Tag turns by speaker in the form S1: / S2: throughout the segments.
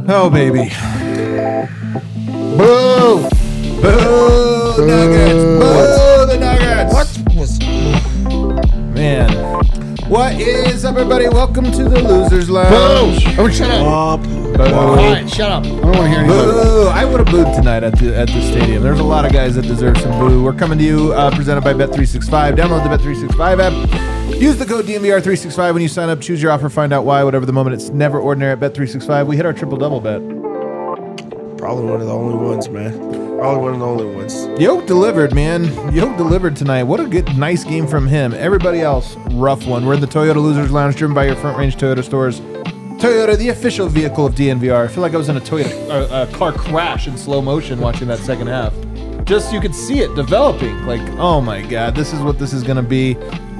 S1: Oh, baby.
S2: Boo!
S1: Boo, Nuggets. Boo, the Nuggets.
S2: What was...
S1: Man. What is up, everybody? Welcome to the Losers Lounge.
S2: Boo! Oh, shut up.
S1: Boo.
S2: All right, shut up. I don't want to hear anything.
S1: Boo. I would have booed tonight at the stadium. There's a lot of guys that deserve some boo. We're coming to you presented by Bet365. Download the Bet365 app. Use the code DNVR365 when you sign up. Choose your offer. Find out why. Whatever the moment, it's never ordinary at Bet365. We hit our triple-double bet.
S3: Probably one of the only ones, man. Probably one of the only ones.
S1: Yoke delivered, man. Yoke delivered tonight. What a good, nice game from him. Everybody else, rough one. We're in the Toyota Losers Lounge, driven by your Front Range Toyota stores. Toyota, the official vehicle of DNVR. I feel like I was in a Toyota car crash in slow motion watching that second half. Just, you could see it developing. Like, oh my God, this is what this is going to be.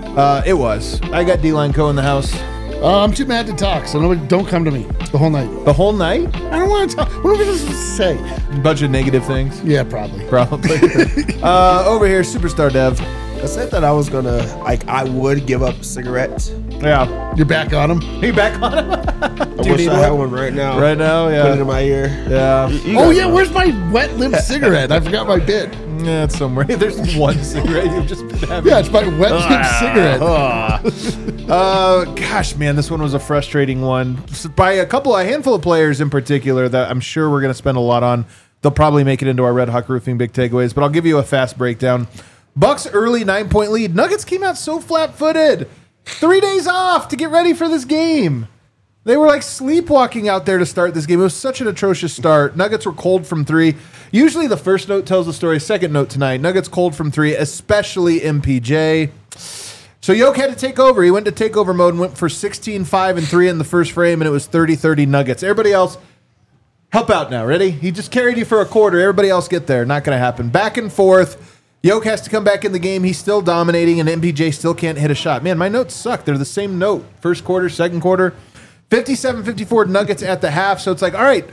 S1: It was. I got D-Line Co. in the house.
S2: I'm too mad to talk, so nobody, don't come to me the whole night.
S1: The whole night?
S2: I don't want to talk. What am I supposed to say?
S1: Bunch of negative things.
S2: Yeah, probably.
S1: Probably. Over here, Superstar Dev.
S3: I said that I was gonna, I would give up cigarettes.
S1: Yeah.
S2: You're back on him?
S1: Are you back on him?
S3: I wish I had one right now.
S1: Right now, yeah.
S3: Put it in my ear.
S1: Yeah.
S2: Oh, yeah, where's my wet lip cigarette? I forgot my bid.
S1: Yeah, it's somewhere. There's one cigarette you've just been having.
S2: Yeah, it's my wet lip cigarette.
S1: Gosh, man, this one was a frustrating one. By a handful of players in particular that I'm sure we're going to spend a lot on. They'll probably make it into our Red Hawk Roofing big takeaways, but I'll give you a fast breakdown. Bucks early 9-point lead. Nuggets came out so flat-footed. 3 days off to get ready for this game. They were like sleepwalking out there to start this game. It was such an atrocious start. Nuggets were cold from three. Usually the first note tells the story. Second note tonight, Nuggets cold from three, especially MPJ. So Yoke had to take over. He went to takeover mode and went for 16, 5, and 3 in the first frame, and it was 30-30 Nuggets. Everybody else, help out now. Ready? He just carried you for a quarter. Everybody else get there. Not going to happen. Back and forth. Yoke has to come back in the game. He's still dominating, and MPJ still can't hit a shot. Man, my notes suck. They're the same note. First quarter, second quarter. 57-54 Nuggets at the half. So it's like, all right.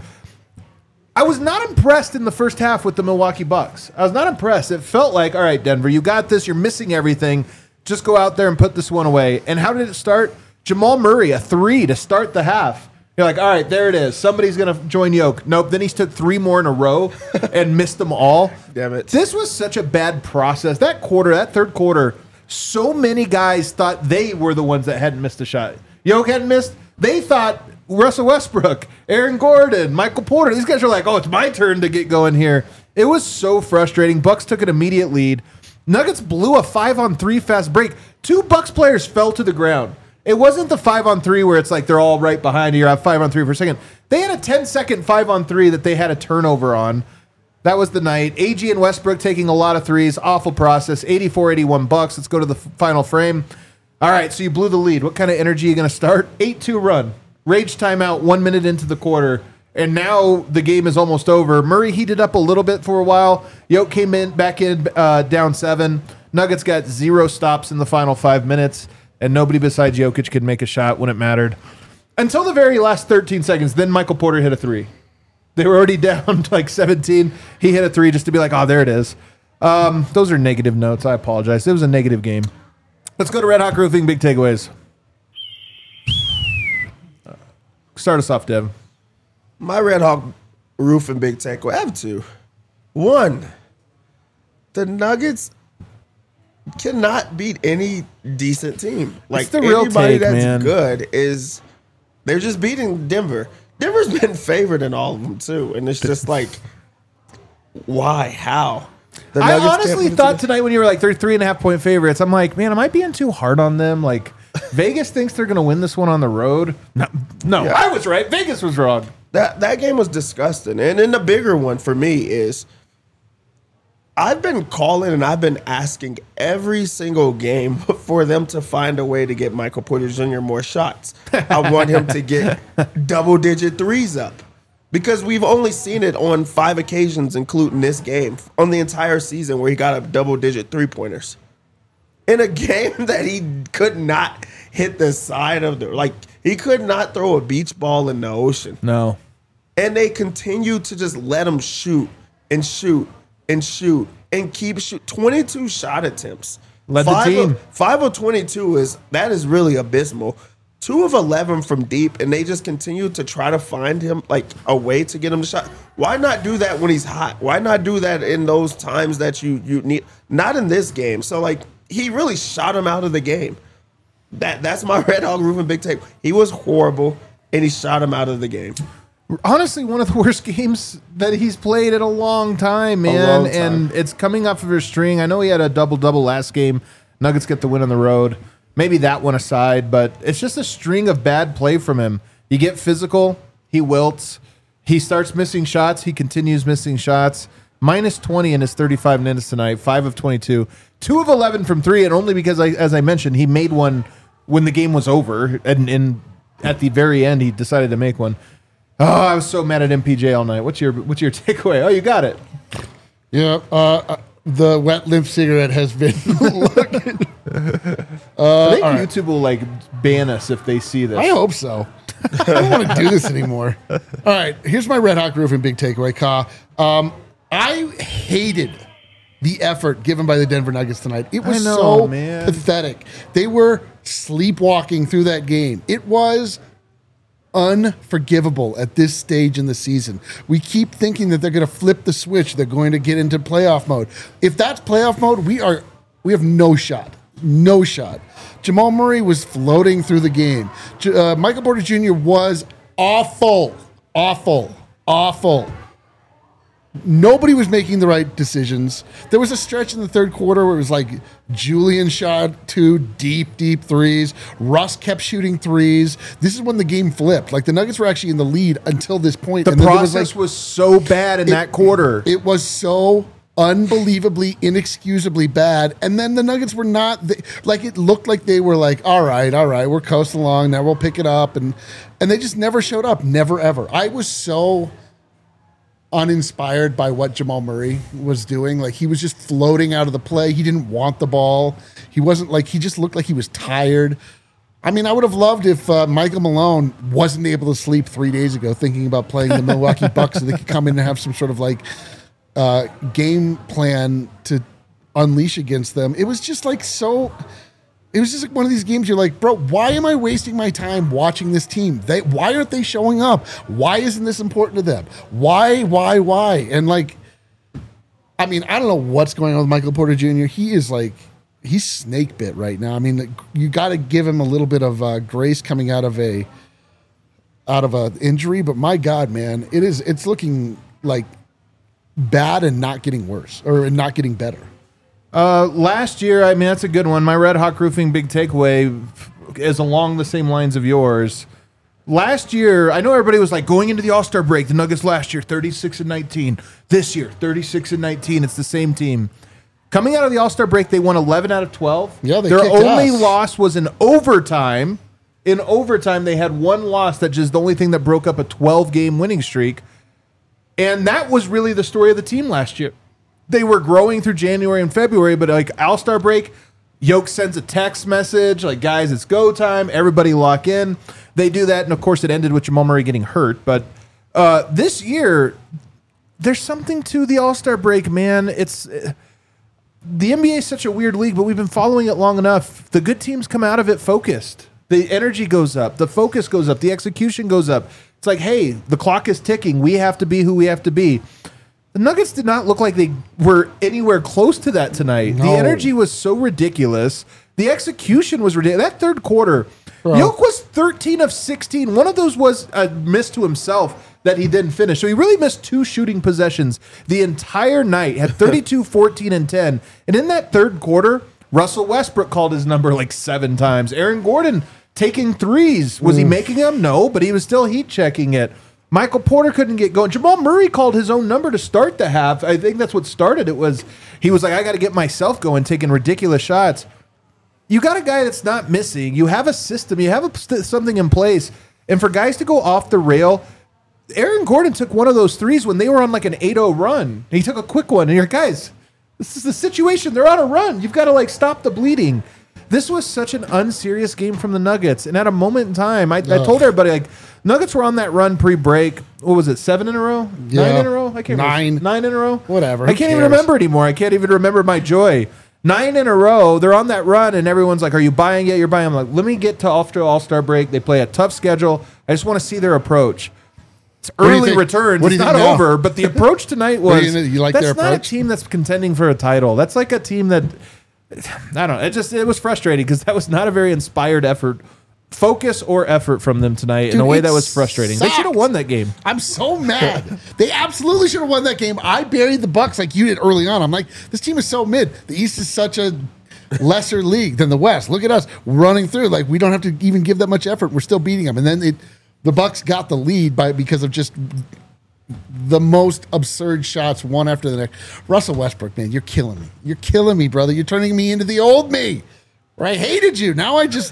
S1: I was not impressed in the first half with the Milwaukee Bucks. I was not impressed. It felt like, all right, Denver, you got this. You're missing everything. Just go out there and put this one away. And how did it start? Jamal Murray, a 3 to start the half. You're like, all right, there it is. Somebody's going to join Yoke. Nope. Then he took 3 more in a row and missed them all.
S3: Damn it.
S1: This was such a bad process. That third quarter, so many guys thought they were the ones that hadn't missed a shot. Yoke hadn't missed. They thought Russell Westbrook, Aaron Gordon, Michael Porter. These guys are like, oh, it's my turn to get going here. It was so frustrating. Bucks took an immediate lead. Nuggets blew a 5-on-3 fast break. 2 Bucks players fell to the ground. It wasn't the 5-on-3 where it's like they're all right behind you. You're at 5-on-3 for a second. They had a 10-second 5-on-3 that they had a turnover on. That was the night. AG and Westbrook taking a lot of threes. Awful process. 84-81 Bucks. Let's go to the final frame. All right, so you blew the lead. What kind of energy are you going to start? 8-2 run. Rage timeout 1 minute into the quarter. And now the game is almost over. Murray heated up a little bit for a while. Yoke came back in down 7. Nuggets got 0 stops in the final 5 minutes. And nobody besides Jokic could make a shot when it mattered. Until the very last 13 seconds, then Michael Porter hit a 3. They were already down like 17. He hit a 3 just to be like, oh, there it is. Those are negative notes. I apologize. It was a negative game. Let's go to Red Hawk Roofing, big takeaways. Start us off, Dev.
S3: My Red Hawk roof and big takeaway. I have 2. 1, the Nuggets cannot beat any decent team. Like
S1: the real
S3: anybody
S1: take,
S3: that's
S1: man.
S3: good is they're just beating Denver. Denver's been favored in all of them too, and it's just like, why? How? The
S1: I
S3: Nuggets can't
S1: honestly
S3: beat
S1: thought tonight when you were like, they're 3.5 point favorites, I'm like, man, am I being too hard on them? Like, Vegas thinks they're going to win this one on the road. No,
S3: Yeah.
S1: I was right. Vegas was wrong.
S3: That game was disgusting. And then the bigger one for me is I've been calling and I've been asking every single game for them to find a way to get Michael Porter Jr. more shots. I want him to get double-digit threes up because we've only seen it on 5 occasions, including this game, on the entire season where he got up double-digit three-pointers. In a game that he could not hit the side of the, like, he could not throw a beach ball in the ocean.
S1: No.
S3: And they continue to just let him shoot and shoot and shoot and keep shoot. 22 shot attempts.
S1: Led the team.
S3: 5 of 22 is really abysmal. 2 of 11 from deep, and they just continue to try to find him like a way to get him to shot. Why not do that when he's hot? Why not do that in those times that you need? Not in this game. So like he really shot him out of the game. That's my Red Hawk Roofing big take. He was horrible, and he shot him out of the game.
S1: Honestly, one of the worst games that he's played in a long time, man. And it's coming off of his string. I know he had a double-double last game. Nuggets get the win on the road. Maybe that one aside, but it's just a string of bad play from him. You get physical, he wilts. He starts missing shots. He continues missing shots. Minus 20 in his 35 minutes tonight, 5 of 22. 2 of 11 from 3, and only because, as I mentioned, he made one when the game was over, and at the very end, he decided to make one. Oh, I was so mad at MPJ all night. What's your takeaway? Oh, you got it.
S2: Yeah, the wet limp cigarette has been looking.
S1: I think YouTube will like ban us if they see this.
S2: I hope so. I don't want to do this anymore. All right, here's my Red Hawk Roofing big takeaway, Ka. I hated the effort given by the Denver Nuggets tonight. It was pathetic. They were sleepwalking through that game. It was unforgivable at this stage in the season. We keep thinking that they're going to flip the switch. They're going to get into playoff mode. If that's playoff mode, we have no shot. No shot. Jamal Murray was floating through the game. Michael Porter Jr. was awful. Nobody was making the right decisions. There was a stretch in the third quarter where it was like Julian shot 2 deep threes. Russ kept shooting threes. This is when the game flipped. Like the Nuggets were actually in the lead until this point.
S1: The process was so bad in that quarter.
S2: It was so unbelievably, inexcusably bad. And then the Nuggets were not like, it looked like they were like, all right, we're coasting along. Now we'll pick it up. And they just never showed up. Never, ever. I was so uninspired by what Jamal Murray was doing. Like he was just floating out of the play. He didn't want the ball. He wasn't like, he just looked like he was tired. I mean, I would have loved if Michael Malone wasn't able to sleep 3 days ago thinking about playing the Milwaukee Bucks so they could come in and have some sort of like game plan to unleash against them. It was just like it was just like one of these games you're like, bro, why am I wasting my time watching this team? Why aren't they showing up? Why isn't this important to them? Why? And like, I mean, I don't know what's going on with Michael Porter Jr. He's snake bit right now. I mean, you got to give him a little bit of grace coming out of a injury, but my God, man, it's looking like bad and not getting worse or not getting better.
S1: Last year, I mean, that's a good one. My Red Hawk Roofing big takeaway is along the same lines of yours. Last year, I know everybody was like going into the All-Star break. The Nuggets last year, 36-19. This year, 36-19. It's the same team. Coming out of the All-Star break, they won 11 out of 12.
S2: Yeah,
S1: their only loss was in overtime. In overtime, they had one loss that's just the only thing that broke up a 12-game winning streak. And that was really the story of the team last year. They were growing through January and February, but like All-Star break, Yoke sends a text message like, guys, it's go time. Everybody lock in. They do that, and of course it ended with Jamal Murray getting hurt. But this year, there's something to the All-Star break, man. It's the NBA is such a weird league, but we've been following it long enough. The good teams come out of it focused. The energy goes up. The focus goes up. The execution goes up. It's like, hey, the clock is ticking. We have to be who we have to be. The Nuggets did not look like they were anywhere close to that tonight. No. The energy was so ridiculous. The execution was ridiculous. That third quarter, Yoke was 13 of 16. One of those was a miss to himself that he didn't finish. So he really missed 2 shooting possessions the entire night. Had 32, 14, and 10. And in that third quarter, Russell Westbrook called his number like 7 times. Aaron Gordon taking threes. Was he making them? No, but he was still heat checking it. Michael Porter couldn't get going. Jamal Murray called his own number to start the half. I think that's what started it. He was like, I got to get myself going, taking ridiculous shots. You got a guy that's not missing. You have a system. You have something in place. And for guys to go off the rail, Aaron Gordon took one of those threes when they were on like an 8-0 run. He took a quick one. And you're, guys, this is the situation. They're on a run. You've got to like stop the bleeding. This was such an unserious game from the Nuggets. And at a moment in time, I told everybody, like, Nuggets were on that run pre-break. What was it, 7 in a row?
S2: Yeah.
S1: 9 in a row? I can't remember. 9 in a row?
S2: Whatever.
S1: I can't even remember anymore. I can't even remember my joy. 9 in a row. They're on that run, and everyone's like, "Are you buying it? You're buying." I'm like, "Let me get to after All-Star break. They play a tough schedule. I just want to see their approach." It's
S2: do you
S1: early
S2: think?
S1: returns.
S2: What do
S1: It's
S2: you
S1: not
S2: think now?
S1: over, but the approach tonight
S2: What do
S1: was.
S2: you like
S1: that's
S2: their
S1: not a
S2: approach?
S1: team that's contending for a title. That's like a team that I don't know. It was frustrating because that was not a very inspired effort, focus or effort from them tonight in a way
S2: it
S1: that was frustrating. They should have
S2: sucked.
S1: won that game.
S2: I'm so mad. They absolutely should have won that game. I buried the Bucks like you did early on. I'm like, this team is so mid. The East is such a lesser league than the West. Look at us running through. Like, we don't have to even give that much effort. We're still beating them. And then the Bucks got the lead because of just the most absurd shots one after the next. Russell Westbrook, man, you're killing me. You're killing me, brother. You're turning me into the old me. Where I hated you. Now I just...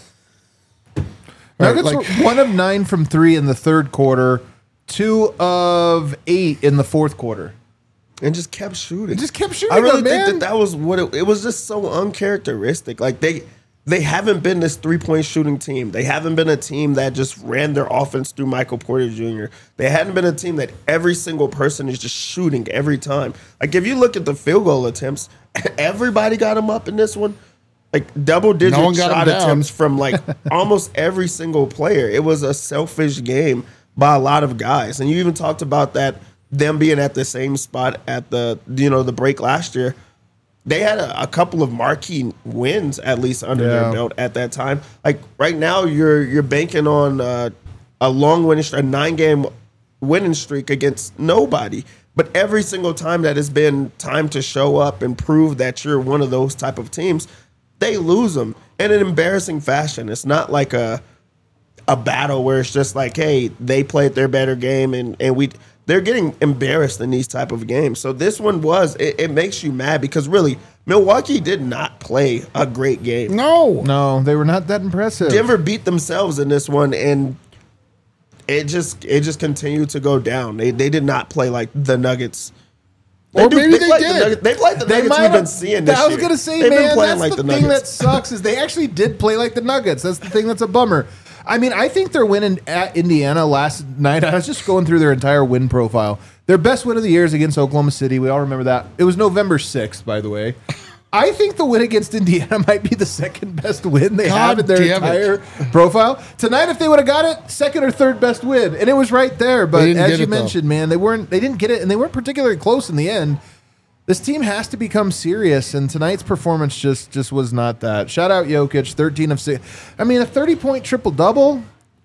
S1: Nuggets
S2: like-
S1: were 1 of 9 from 3 in the third quarter, 2 of 8 in the fourth quarter.
S3: And just kept shooting.
S1: Just kept shooting.
S3: I really
S1: man.
S3: think that was what it was. Just so uncharacteristic. Like they haven't been this 3-point shooting team. They haven't been a team that just ran their offense through Michael Porter Jr. They hadn't been a team that every single person is just shooting every time. Like if you look at the field goal attempts, everybody got them up in this one. Like double-digit
S2: No one got
S3: shot
S2: them down.
S3: attempts from like almost every single player. It was a selfish game by a lot of guys. And you even talked about that them being at the same spot at the break last year. They had a couple of marquee wins at least under their belt at that time. Like right now, you're banking on a long winning streak, a 9-game winning streak against nobody. But every single time that has been time to show up and prove that you're one of those type of teams, they lose them in an embarrassing fashion. It's not like a battle where it's just like, hey, they played their better game and they're getting embarrassed in these type of games. So this one it makes you mad because really Milwaukee did not play a great game.
S1: No, they were not that impressive.
S3: Denver beat themselves in this one, and it just continued to go down. They did not play like the Nuggets.
S2: Or maybe they
S3: played
S2: did.
S3: They played the Nuggets we've been seeing this year.
S1: I was going to say,
S3: They've been
S1: man,
S3: playing
S1: that's
S3: like
S1: the
S3: the
S1: thing that
S3: Nuggets.
S1: sucks is they actually did play like the Nuggets. That's the thing that's a bummer. I mean, I think their win at Indiana last night, I was just going through their entire win profile. Their best win of the year is against Oklahoma City. We all remember that. It was November 6th, by the way. I think the win against Indiana might be the second best win they have in their entire profile. Tonight, if they would have got it, second or third best win. And it was right there. But as you mentioned, man, they didn't get it, and they weren't particularly close in the end. This team has to become serious, and tonight's performance just was not that. Shout out Jokic, 13 of 6. I mean, a 30-point triple-double,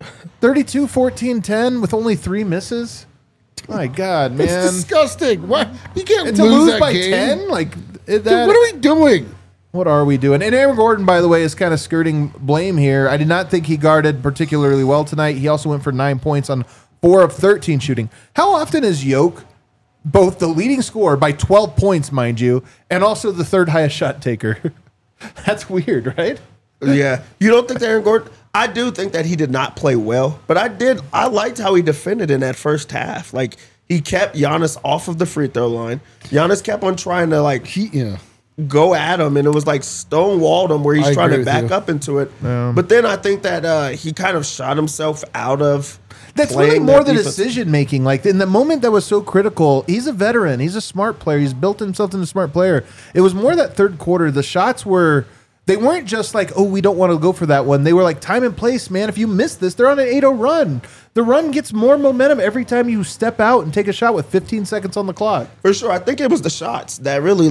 S1: 32, 14, 10 with only 3 misses. My God, man.
S2: It's disgusting. What? You can't
S1: And to
S2: lose
S1: lose
S2: that
S1: by
S2: game.
S1: 10? Like,
S2: Dude, what are we doing?
S1: What are we doing? And Aaron Gordon, by the way, is kind of skirting blame here. I did not think he guarded particularly well tonight. He also went for 9 points on 4 of 13 shooting. How often is Jokic both the leading scorer by 12 points, mind you, and also the third highest shot taker? That's weird, right?
S3: Yeah. You don't think that Aaron Gordon? I do think that he did not play well, but I liked how he defended in that first half. Like, he kept Giannis off of the free throw line. Giannis kept on trying to, go at him, and it was like stonewalled him where he's trying to back up into it. But then I think that he kind of shot himself out of
S1: That's
S3: playing
S1: really more
S3: that
S1: the
S3: defense.
S1: decision making. Like in the moment that was so critical, he's a veteran. He's a smart player. He's built himself into a smart player. It was more that third quarter. The shots they weren't just like, oh, we don't want to go for that one. They were like, time and place, man. If you miss this, they're on an 8-0 run. The run gets more momentum every time you step out and take a shot with 15 seconds on the clock.
S3: For sure. I think it was the shots that really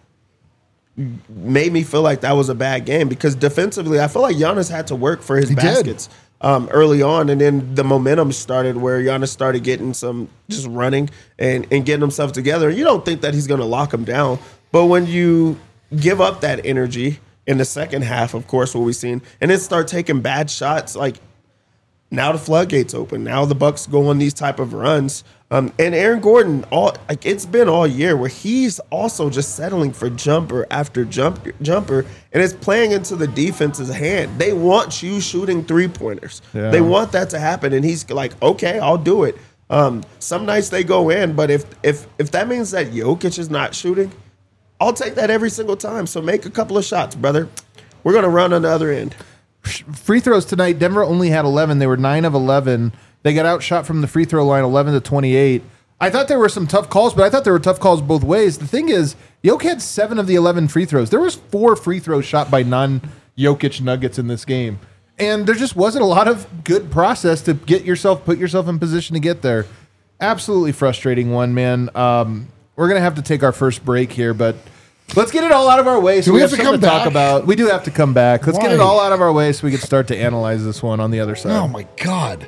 S3: made me feel like that was a bad game because defensively, I feel like Giannis had to work for his baskets early on, and then the momentum started where Giannis started getting some just running and getting himself together. You don't think that he's going to lock him down, but when you give up that energy in the second half, of course, what we've seen, and then start taking bad shots, like now the floodgates open. Now the Bucks go on these type of runs. And Aaron Gordon, it's been all year where he's also just settling for jumper after jumper, and it's playing into the defense's hand. They want you shooting 3-pointers.
S1: Yeah.
S3: They want that to happen, and he's like, okay, I'll do it. Some nights they go in, but if that means that Jokic is not shooting, I'll take that every single time. So make a couple of shots, brother. We're going to run on the other end.
S1: Free throws tonight, Denver only had 11. They were 9 of 11. They got outshot from the free throw line 11 to 28. I thought there were some tough calls, but I thought there were tough calls both ways. The thing is, Jokic had 7 of the 11 free throws. There was 4 free throws shot by non-Jokic Nuggets in this game. And there just wasn't a lot of good process to put yourself in position to get there. Absolutely frustrating one, man. We're going to have to take our first break here, but let's get it all out of our way. So
S2: Do we have to
S1: something
S2: come
S1: talk
S2: back?
S1: about. We do have to come back. Let's get it
S2: Why?
S1: all out of our way so we can start to analyze this one on the other side.
S2: Oh my God.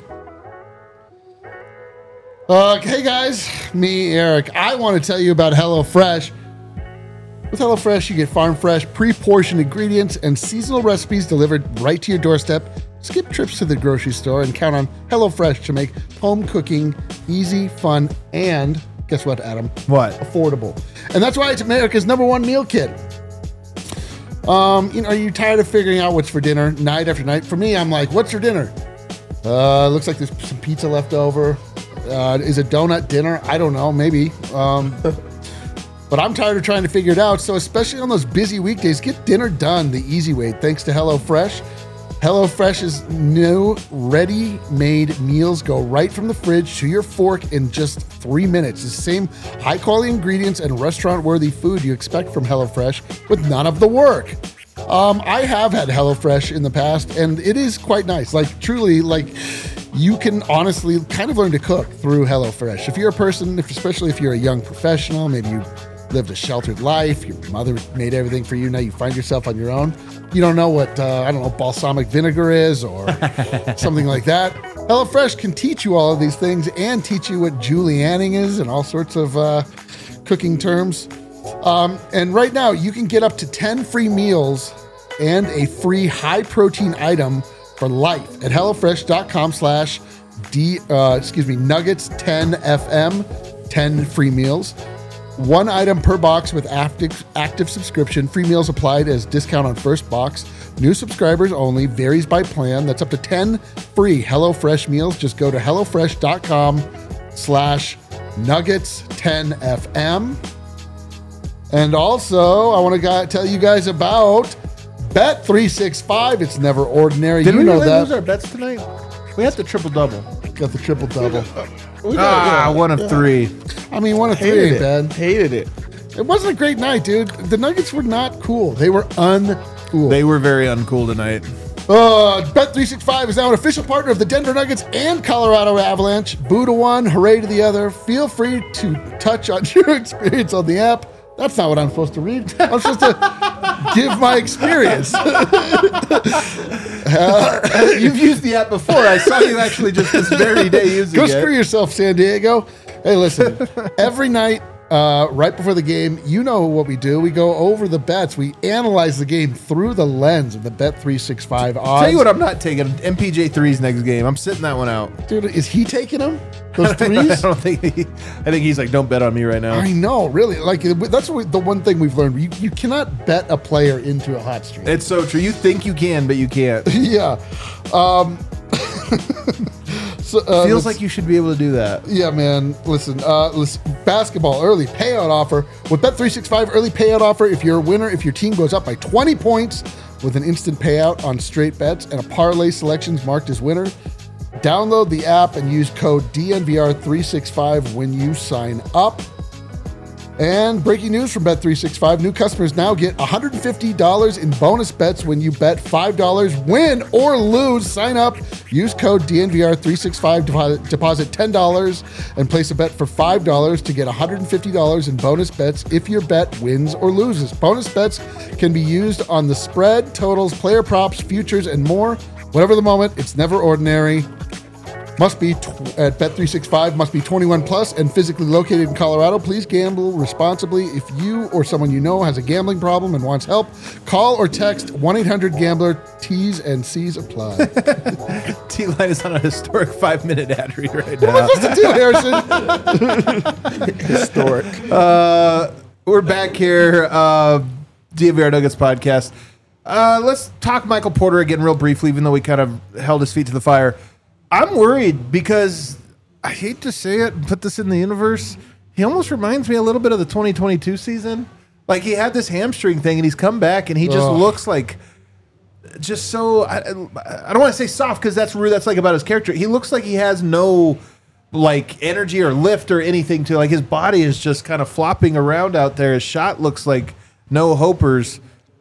S2: Hey guys, me, Eric. I want to tell you about HelloFresh. With HelloFresh, you get farm fresh, pre-portioned ingredients and seasonal recipes delivered right to your doorstep. Skip trips to the grocery store and count on HelloFresh to make home cooking easy, fun, and guess what, Adam?
S1: What?
S2: Affordable. And that's why it's America's #1 meal kit. Are you tired of figuring out what's for dinner night after night? For me, I'm like, what's for dinner? Looks like there's some pizza left over. Is a donut dinner? I don't know, maybe. But I'm tired of trying to figure it out. So especially on those busy weekdays, get dinner done the easy way thanks to HelloFresh. HelloFresh's new ready-made meals go right from the fridge to your fork in just 3 minutes. The same high-quality ingredients and restaurant-worthy food you expect from HelloFresh with none of the work. I have had HelloFresh in the past, and it is quite nice. Like, truly, you can honestly kind of learn to cook through HelloFresh. If you're a person, especially if you're a young professional, maybe you lived a sheltered life, your mother made everything for you, now you find yourself on your own. You don't know what, balsamic vinegar is or something like that. HelloFresh can teach you all of these things and teach you what julienning is and all sorts of cooking terms. And right now, you can get up to 10 free meals and a free high-protein item for life at HelloFresh.com/Nuggets10FM, 10 free meals. 1 item per box with active subscription. Free meals applied as discount on first box. New subscribers only. Varies by plan. That's up to 10 free HelloFresh meals. Just go to HelloFresh.com/Nuggets10FM. And also, I want to tell you guys about Bet365. It's never ordinary.
S1: Did
S2: you
S1: we
S2: know
S1: really
S2: that.
S1: lose our bets tonight? We had the triple-double.
S2: Got the triple-double.
S1: One of 3.
S2: I mean, 1 of 3
S3: Hated
S2: ain't
S3: it.
S2: bad.
S3: Hated it.
S2: It wasn't a great night, dude. The Nuggets were not cool. They were uncool.
S1: They were very uncool tonight.
S2: Bet365 is now an official partner of the Denver Nuggets and Colorado Avalanche. Boo to one, hooray to the other. Feel free to touch on your experience on the app. That's not what I'm supposed to read. I'm supposed to give my experience.
S1: You've used the app before. I saw you actually just this very day using
S2: Go
S1: it.
S2: screw yourself, San Diego. Hey, listen, every night, right before the game, you know what we do. We go over the bets. We analyze the game through the lens of the Bet365 odds.
S1: Tell you what I'm not taking. MPJ3's next game. I'm sitting that one out.
S2: Dude, is he taking them? Those
S1: I
S2: threes?
S1: don't think I think he's like, don't bet on me right now.
S2: I know, really. Like, that's the one thing we've learned. You cannot bet a player into a hot streak.
S1: It's so true. You think you can, but you can't.
S2: Yeah.
S1: Feels like you should be able to do that.
S2: Yeah, man. Listen, basketball early payout offer. With Bet365 early payout offer, if you're a winner, if your team goes up by 20 points with an instant payout on straight bets and a parlay selections marked as winner, download the app and use code DNVR365 when you sign up. And breaking news from Bet365, new customers now get $150 in bonus bets when you bet $5. Win or lose, sign up, use code DNVR365, deposit $10, and place a bet for $5 to get $150 in bonus bets if your bet wins or loses. Bonus bets can be used on the spread, totals, player props, futures, and more. Whatever the moment, it's never ordinary. Must be at Bet365, must be 21 plus and physically located in Colorado. Please gamble responsibly. If you or someone you know has a gambling problem and wants help, call or text 1-800-GAMBLER. T's and C's apply.
S1: T-Line is on a historic 5-minute ad read right
S2: What am
S1: now.
S2: I supposed to do, Harrison?
S3: Historic.
S1: We're back here, DNVR Nuggets podcast. Let's talk Michael Porter again real briefly, even though we kind of held his feet to the fire. I'm worried because I hate to say it and put this in the universe. He almost reminds me a little bit of the 2022 season. Like, he had this hamstring thing and he's come back and he just looks like just so, I don't want to say soft because that's rude. That's like about his character. He looks like he has no like energy or lift or anything to, like, his body is just kind of flopping around out there. His shot looks like no hopers.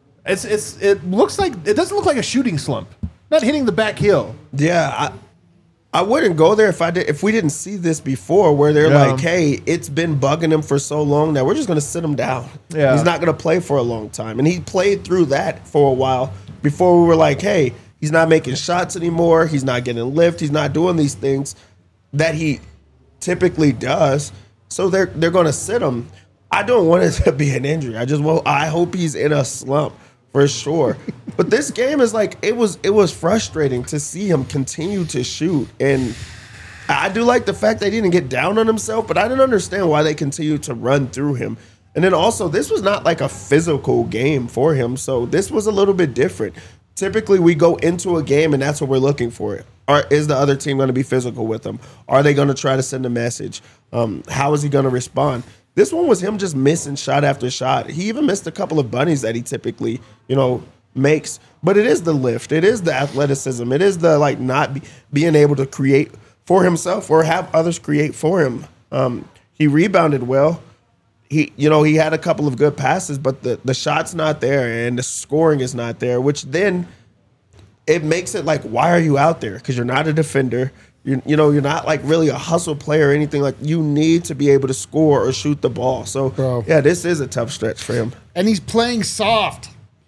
S1: It looks like, it doesn't look like a shooting slump. Not hitting the back heel.
S3: Yeah, I wouldn't go there if we didn't see this before, where they're like, hey, it's been bugging him for so long that we're just going to sit him down.
S1: Yeah.
S3: He's not going to play for a long time. And he played through that for a while before we were like, hey, he's not making shots anymore. He's not getting lift. He's not doing these things that he typically does. So they're going to sit him. I don't want it to be an injury. I hope he's in a slump for sure. But this game is like, it was frustrating to see him continue to shoot. And I do like the fact that he didn't get down on himself, but I didn't understand why they continued to run through him. And then also, this was not like a physical game for him, so this was a little bit different. Typically, we go into a game, and that's what we're looking for. Is the other team going to be physical with him? Are they going to try to send a message? How is he going to respond? This one was him just missing shot after shot. He even missed a couple of bunnies that he typically, makes. But it is the lift. It is the athleticism. It is the being able to create for himself or have others create for him. He rebounded well. He had a couple of good passes, but the shot's not there and the scoring is not there, which then it makes it like, why are you out there? Because you're not a defender. You're not like really a hustle player or anything. Like, you need to be able to score or shoot the ball. So, yeah, this is a tough stretch for him.
S2: And he's playing soft.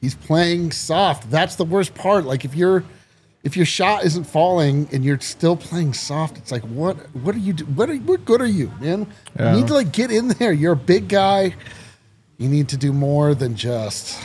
S2: That's the worst part. Like, if your shot isn't falling and you're still playing soft, it's like, what are you do? What good are you, man?
S1: Yeah.
S2: You need to get in there. You're a big guy. You need to do more than just,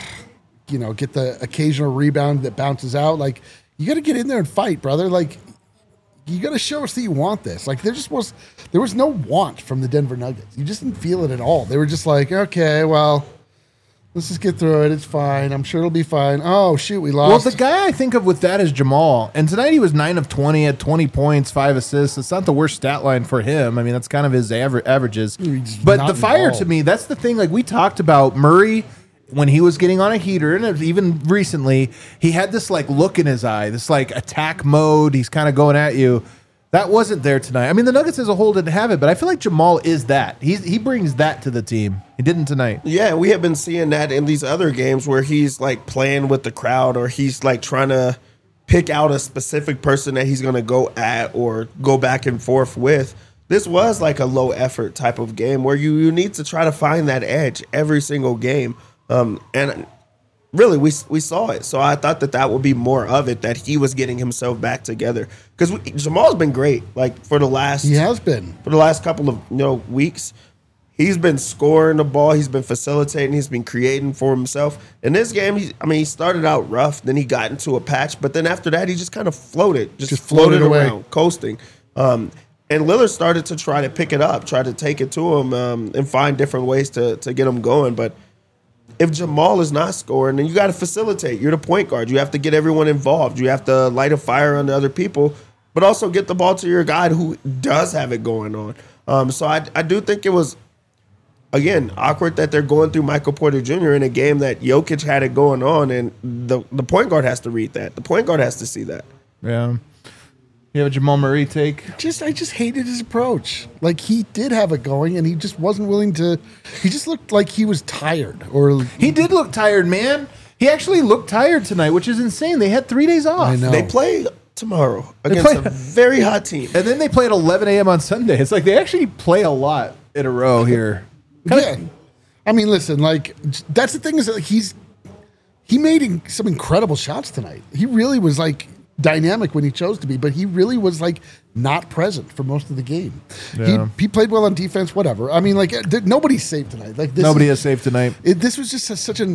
S2: get the occasional rebound that bounces out. Like, you got to get in there and fight, brother. Like, you got to show us that you want this. Like, there was no want from the Denver Nuggets. You just didn't feel it at all. They were just like, okay, well, let's just get through it. It's fine. I'm sure it'll be fine. Oh, shoot, we lost.
S1: Well, the guy I think of with that is Jamal. And tonight he was 9 of 20 at 20 points, 5 assists. It's not the worst stat line for him. I mean, that's kind of his averages. But the fire
S2: involved.
S1: to me, that's the thing. Like, we talked about Murray when he was getting on a heater, and even recently, he had this look in his eye, this attack mode. He's kind of going at you. That wasn't there tonight. I mean, the Nuggets as a whole didn't have it, but I feel like Jamal is that. He brings that to the team. He didn't tonight.
S3: Yeah, we have been seeing that in these other games where he's playing with the crowd, or he's trying to pick out a specific person that he's going to go at or go back and forth with. This was a low effort type of game where you need to try to find that edge every single game. And really, we saw it. So I thought that would be more of it, that he was getting himself back together. Because Jamal's been great. For the last,
S2: he has been
S3: for the last couple of weeks. He's been scoring the ball. He's been facilitating. He's been creating for himself. In this game, he started out rough. Then he got into a patch. But then after that, he just kind of floated, just floated
S2: away,
S3: around, coasting. And Lillard started to try to pick it up, try to take it to him, and find different ways to get him going. But if Jamal is not scoring, then you got to facilitate. You're the point guard. You have to get everyone involved. You have to light a fire on the other people, but also get the ball to your guy who does have it going on. So I do think it was, again, awkward that they're going through Michael Porter Jr. in a game that Jokic had it going on, and the point guard has to read that. The point guard has to see that.
S1: Yeah. You have a Jamal Murray take?
S2: I just hated his approach. He did have it going, and he just wasn't willing to. He just looked like he was tired. Or
S1: he did look tired, man. He actually looked tired tonight, which is insane. They had 3 days off.
S2: I know.
S3: They play tomorrow against a very hot team.
S1: And then they play at 11 a.m. on Sunday. It's they actually play a lot in a row here.
S2: Yeah. I mean, listen, that's the thing is that he made some incredible shots tonight. He really was dynamic when he chose to be, but he really was not present for most of the game.
S1: Yeah.
S2: He played well on defense, whatever. I mean, nobody's safe tonight.
S1: Nobody is safe tonight.
S2: This was just such an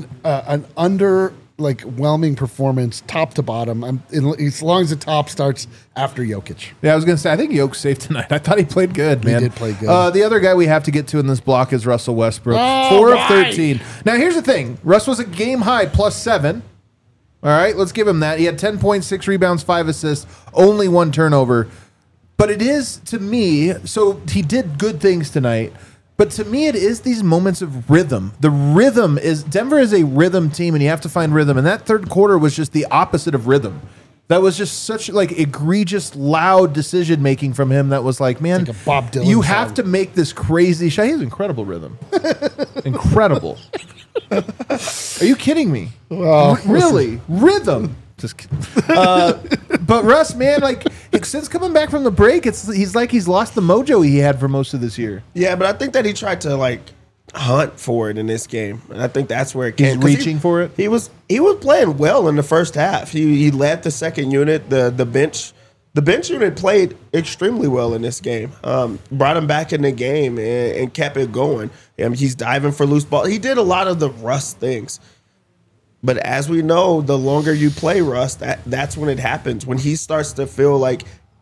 S2: underwhelming performance, top to bottom. As long as the top starts after Jokic.
S1: Yeah, I was going to say, I think Jokic's safe tonight. I thought he played good, man.
S2: He did play good.
S1: The other guy we have to get to in this block is Russell Westbrook.
S2: Oh,
S1: 4 of
S2: why?
S1: 13. Now, here's the thing. Russ was a game high +7. All right, let's give him that. He had 10 points, 6 rebounds, 5 assists, only 1 turnover. But it is, to me, so he did good things tonight. But to me, it is these moments of rhythm. The rhythm is, Denver is a rhythm team, and you have to find rhythm. And that third quarter was just the opposite of rhythm. That was just such like egregious, loud decision making from him. That was like, man,
S2: Like a Bob Dylan
S1: you
S2: song.
S1: have to make this crazy shot. He has incredible rhythm, incredible. Are you kidding me?
S2: Well,
S1: Really, rhythm. Just kidding. But Russ, man, like since coming back from the break, he's like he's lost the mojo he had for most of this year.
S3: Yeah, but I think that he tried to like hunt for it in this game, and I think that's where it came.
S1: He's
S3: 'Cause
S1: reaching for it?
S3: He was playing well in the first half. He led the second unit. The bench unit played extremely well in this game. Brought him back in the game and kept it going. He's diving for loose ball. He did a lot of the Russ things. But as we know, the longer you play Russ, that's when it happens. When he starts to feel like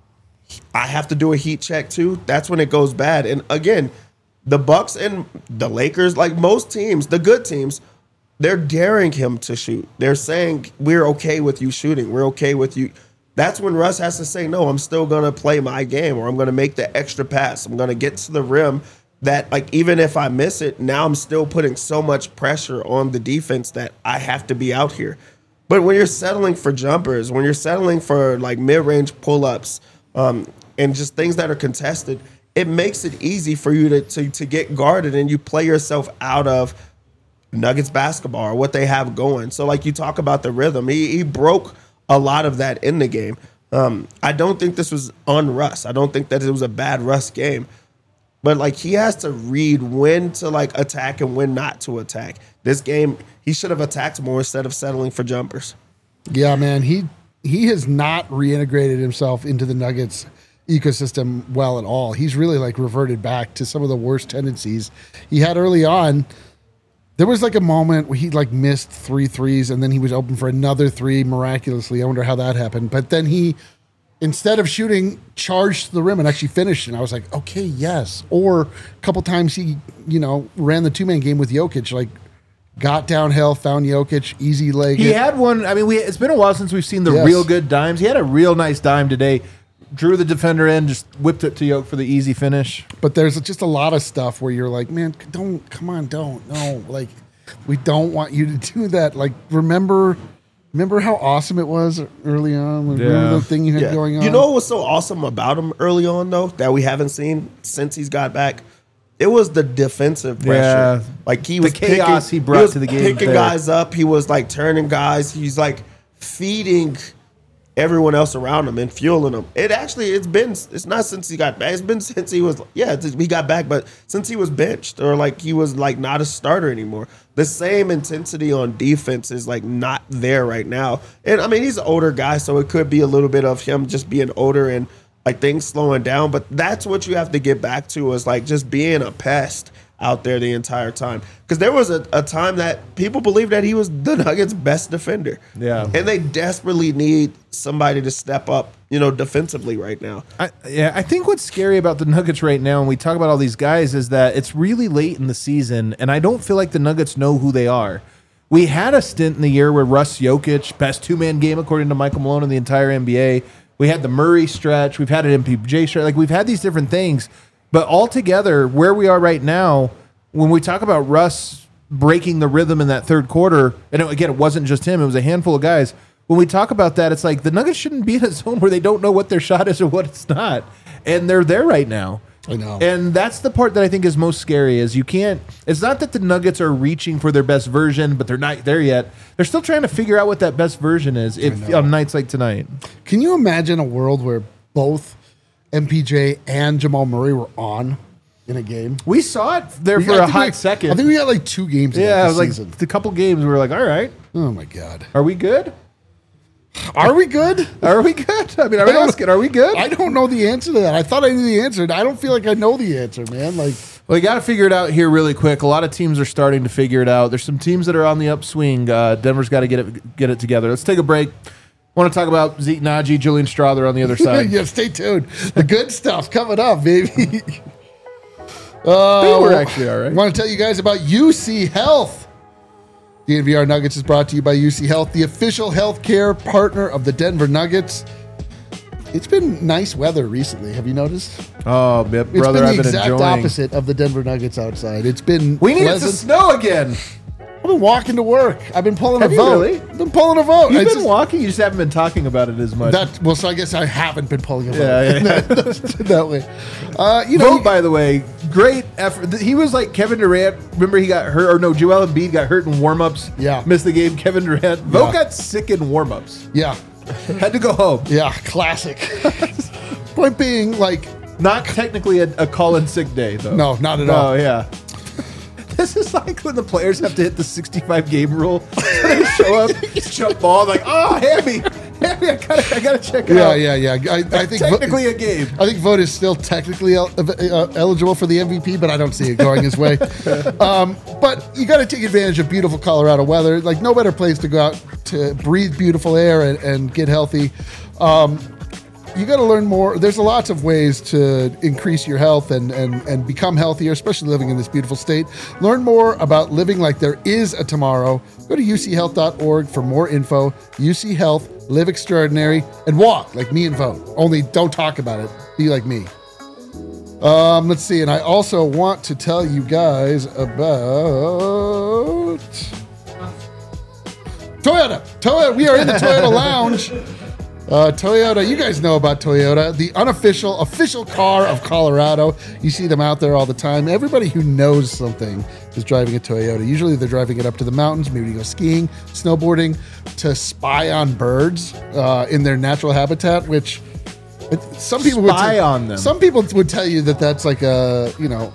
S3: I have to do a heat check too, that's when it goes bad. And again, the Bucks and the Lakers, like most teams, the good teams, they're daring him to shoot. They're saying, we're okay with you shooting. We're okay with you. That's when Russ has to say, no, I'm still going to play my game, or I'm going to make the extra pass. I'm going to get to the rim that, like, even if I miss it, now I'm still putting so much pressure on the defense that I have to be out here. But when you're settling for jumpers, when you're settling for, like, mid-range pull-ups and just things that are contested, it makes it easy for you to get guarded, and you play yourself out of Nuggets basketball or what they have going. So, like, you talk about the rhythm. He broke a lot of that in the game. I don't think this was on Russ. I don't think that it was a bad Russ game. But, like, he has to read when to, like, attack and when not to attack. This game, he should have attacked more instead of settling for jumpers.
S2: Yeah, man. He has not reintegrated himself into the Nuggets ecosystem well at all. He's really, like, reverted back to some of the worst tendencies he had early on. There was, like, a moment where he, like, missed 3 threes, and then he was open for another 3 miraculously. I wonder how that happened. But then he, instead of shooting, charged to the rim and actually finished. And I was like, okay, yes. Or a couple times he, ran the 2-man game with Jokic, like, got downhill, found Jokic, easy leg.
S1: He had one. I mean, it's been a while since we've seen the
S2: Yes.
S1: real good dimes. He had a real nice dime today. Drew the defender in, just whipped it to Yoke for the easy finish.
S2: But there's just a lot of stuff where you're like, man, don't. No. Like, we don't want you to do that. Like, remember how awesome it was early on? Like, remember the thing you had going on?
S3: You know what was so awesome about him early on, though, that we haven't seen since he's got back? It was the defensive pressure.
S1: Yeah.
S3: Like, he was
S1: The chaos he brought to the game
S3: picking
S1: there.
S3: guys up. He was, like, turning guys. He's, like, feeding everyone else around him and fueling them. It's not since he got back. It's been since he got back, but since he was benched or like he was like not a starter anymore. The same intensity on defense is like not there right now. And I mean, he's an older guy, so it could be a little bit of him just being older and like things slowing down. But that's what you have to get back to, is like just being a pest out there the entire time. Because there was a time that people believed that he was the Nuggets' best defender.
S1: Yeah.
S3: And they desperately need somebody to step up, defensively right now.
S1: I think what's scary about the Nuggets right now, and we talk about all these guys, is that it's really late in the season, and I don't feel like the Nuggets know who they are. We had a stint in the year where Russ Jokic, best 2-man game according to Michael Malone in the entire NBA. We had the Murray stretch. We've had an MPJ stretch. Like, we've had these different things. But altogether, where we are right now, when we talk about Russ breaking the rhythm in that third quarter, and again, it wasn't just him, it was a handful of guys. When we talk about that, it's like the Nuggets shouldn't be in a zone where they don't know what their shot is or what it's not. And they're there right now.
S2: I know.
S1: And that's the part that I think is most scary, is it's not that the Nuggets are reaching for their best version, but they're not there yet. They're still trying to figure out what that best version is on nights like tonight.
S2: Can you imagine a world where both MPJ and Jamal Murray were on in a game?
S1: We saw it there for a hot second.
S2: I think we got like 2 games.
S1: Yeah, it
S2: this
S1: was
S2: season.
S1: like a couple games we were like, all right,
S2: Oh my god,
S1: are we good?
S2: are we good?
S1: Are we good? I mean, I'm asking, are we good?
S2: I don't know the answer to that. I thought I knew the answer. I don't feel like I know the answer, man. Like,
S1: Well, you got to figure it out here really quick. A lot of teams are starting to figure it out. There's some teams that are on the upswing. Denver's got to get it together. Let's take a break. Want to talk about Zeke Naji, Julian Strother on the other side.
S2: yeah, stay tuned. The good stuff coming up, baby.
S1: They were actually all right.
S2: I want to tell you guys about UC Health. The NVR Nuggets is brought to you by UC Health, the official healthcare partner of the Denver Nuggets. It's been nice weather recently. Have you noticed?
S1: Oh,
S2: It's
S1: brother,
S2: been the
S1: I've been
S2: exact
S1: enjoying.
S2: opposite of the Denver Nuggets outside. It's been
S1: We need it to
S2: pleasant.
S1: snow again.
S2: I've been walking to work. I've been pulling
S1: Have
S2: a
S1: you
S2: vote.
S1: really?
S2: I've been pulling a vote.
S1: You've
S2: It's
S1: been
S2: just-
S1: walking. You just haven't been talking about it as much.
S2: so I guess I haven't been pulling a vote.
S1: Yeah.
S2: that way.
S1: Vote, by the way, great effort. He was like Kevin Durant. Remember he got hurt, or no, Joel Embiid got hurt in warm-ups.
S2: Yeah.
S1: Missed the game. Kevin Durant. Vote
S2: Yeah.
S1: got sick in warm-ups.
S2: Yeah.
S1: Had to go home.
S2: Yeah. Classic. Point being, like,
S1: Not technically a call-in sick day, though.
S2: no, not at all.
S1: Oh, yeah. This is like when the players have to hit the 65-game rule. They show up, jump ball, like, oh, Hammy, I gotta check it out.
S2: Yeah. I think
S1: Technically a game.
S2: I think Vogt is still technically eligible for the MVP, but I don't see it going his way. But you got to take advantage of beautiful Colorado weather. Like, no better place to go out to breathe beautiful air and get healthy. You got to learn more. There's lots of ways to increase your health and become healthier, especially living in this beautiful state. Learn more about living like there is a tomorrow. Go to uchealth.org for more info. UC Health, live extraordinary, and walk like me and Vogt. Only don't talk about it. Be like me. Let's see. And I also want to tell you guys about Toyota. We are in the Toyota Lounge. Toyota, you guys know about Toyota, the official car of Colorado. You see them out there all the time. Everybody who knows something is driving a Toyota. Usually they're driving it up to the mountains, maybe to go skiing, snowboarding, to spy on birds in their natural habitat, which some people
S1: Spy on them.
S2: Some people would tell you that that's like a,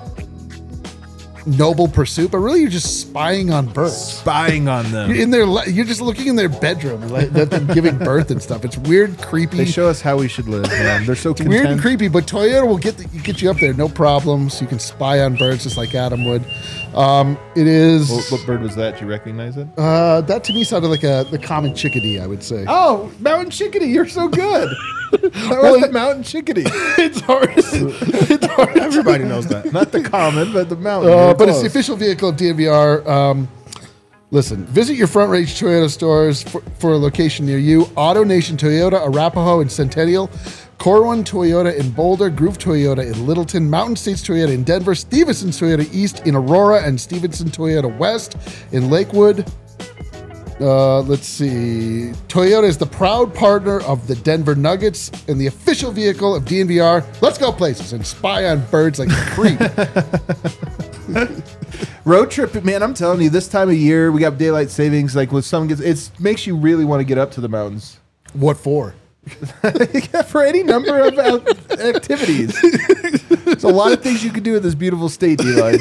S2: noble pursuit, but really you're just spying on birds.
S1: Spying on them.
S2: You're just looking in their bedroom, like them giving birth and stuff. It's weird, creepy.
S1: They show us how we should live, man. They're so content.
S2: Weird and creepy, but Toyota will get you up there, no problems. You can spy on birds just like Adam would. It is.
S1: What bird was that? Do you recognize it?
S2: That to me sounded like the common chickadee, I would say.
S1: Oh, mountain chickadee. You're so good. That was the mountain chickadee.
S2: It's hard. It's hard.
S3: Everybody knows that.
S1: Not the common, but the mountain. You're
S2: But it's the
S1: close.
S2: official vehicle of DNVR. Listen, visit your Front Range Toyota stores for a location near you. AutoNation Toyota, Arapahoe, and Centennial. Corwin Toyota in Boulder, Groove Toyota in Littleton, Mountain States Toyota in Denver, Stevenson Toyota East in Aurora, and Stevenson Toyota West in Lakewood. Let's see. Toyota is the proud partner of the Denver Nuggets and the official vehicle of DNVR. Let's go places and spy on birds like a creep.
S1: Road trip, man. I'm telling you, this time of year we got daylight savings. Like when sun gets, it makes you really want to get up to the mountains.
S2: What for?
S1: For any number of activities. There's a lot of things you can do in this beautiful state, Eli.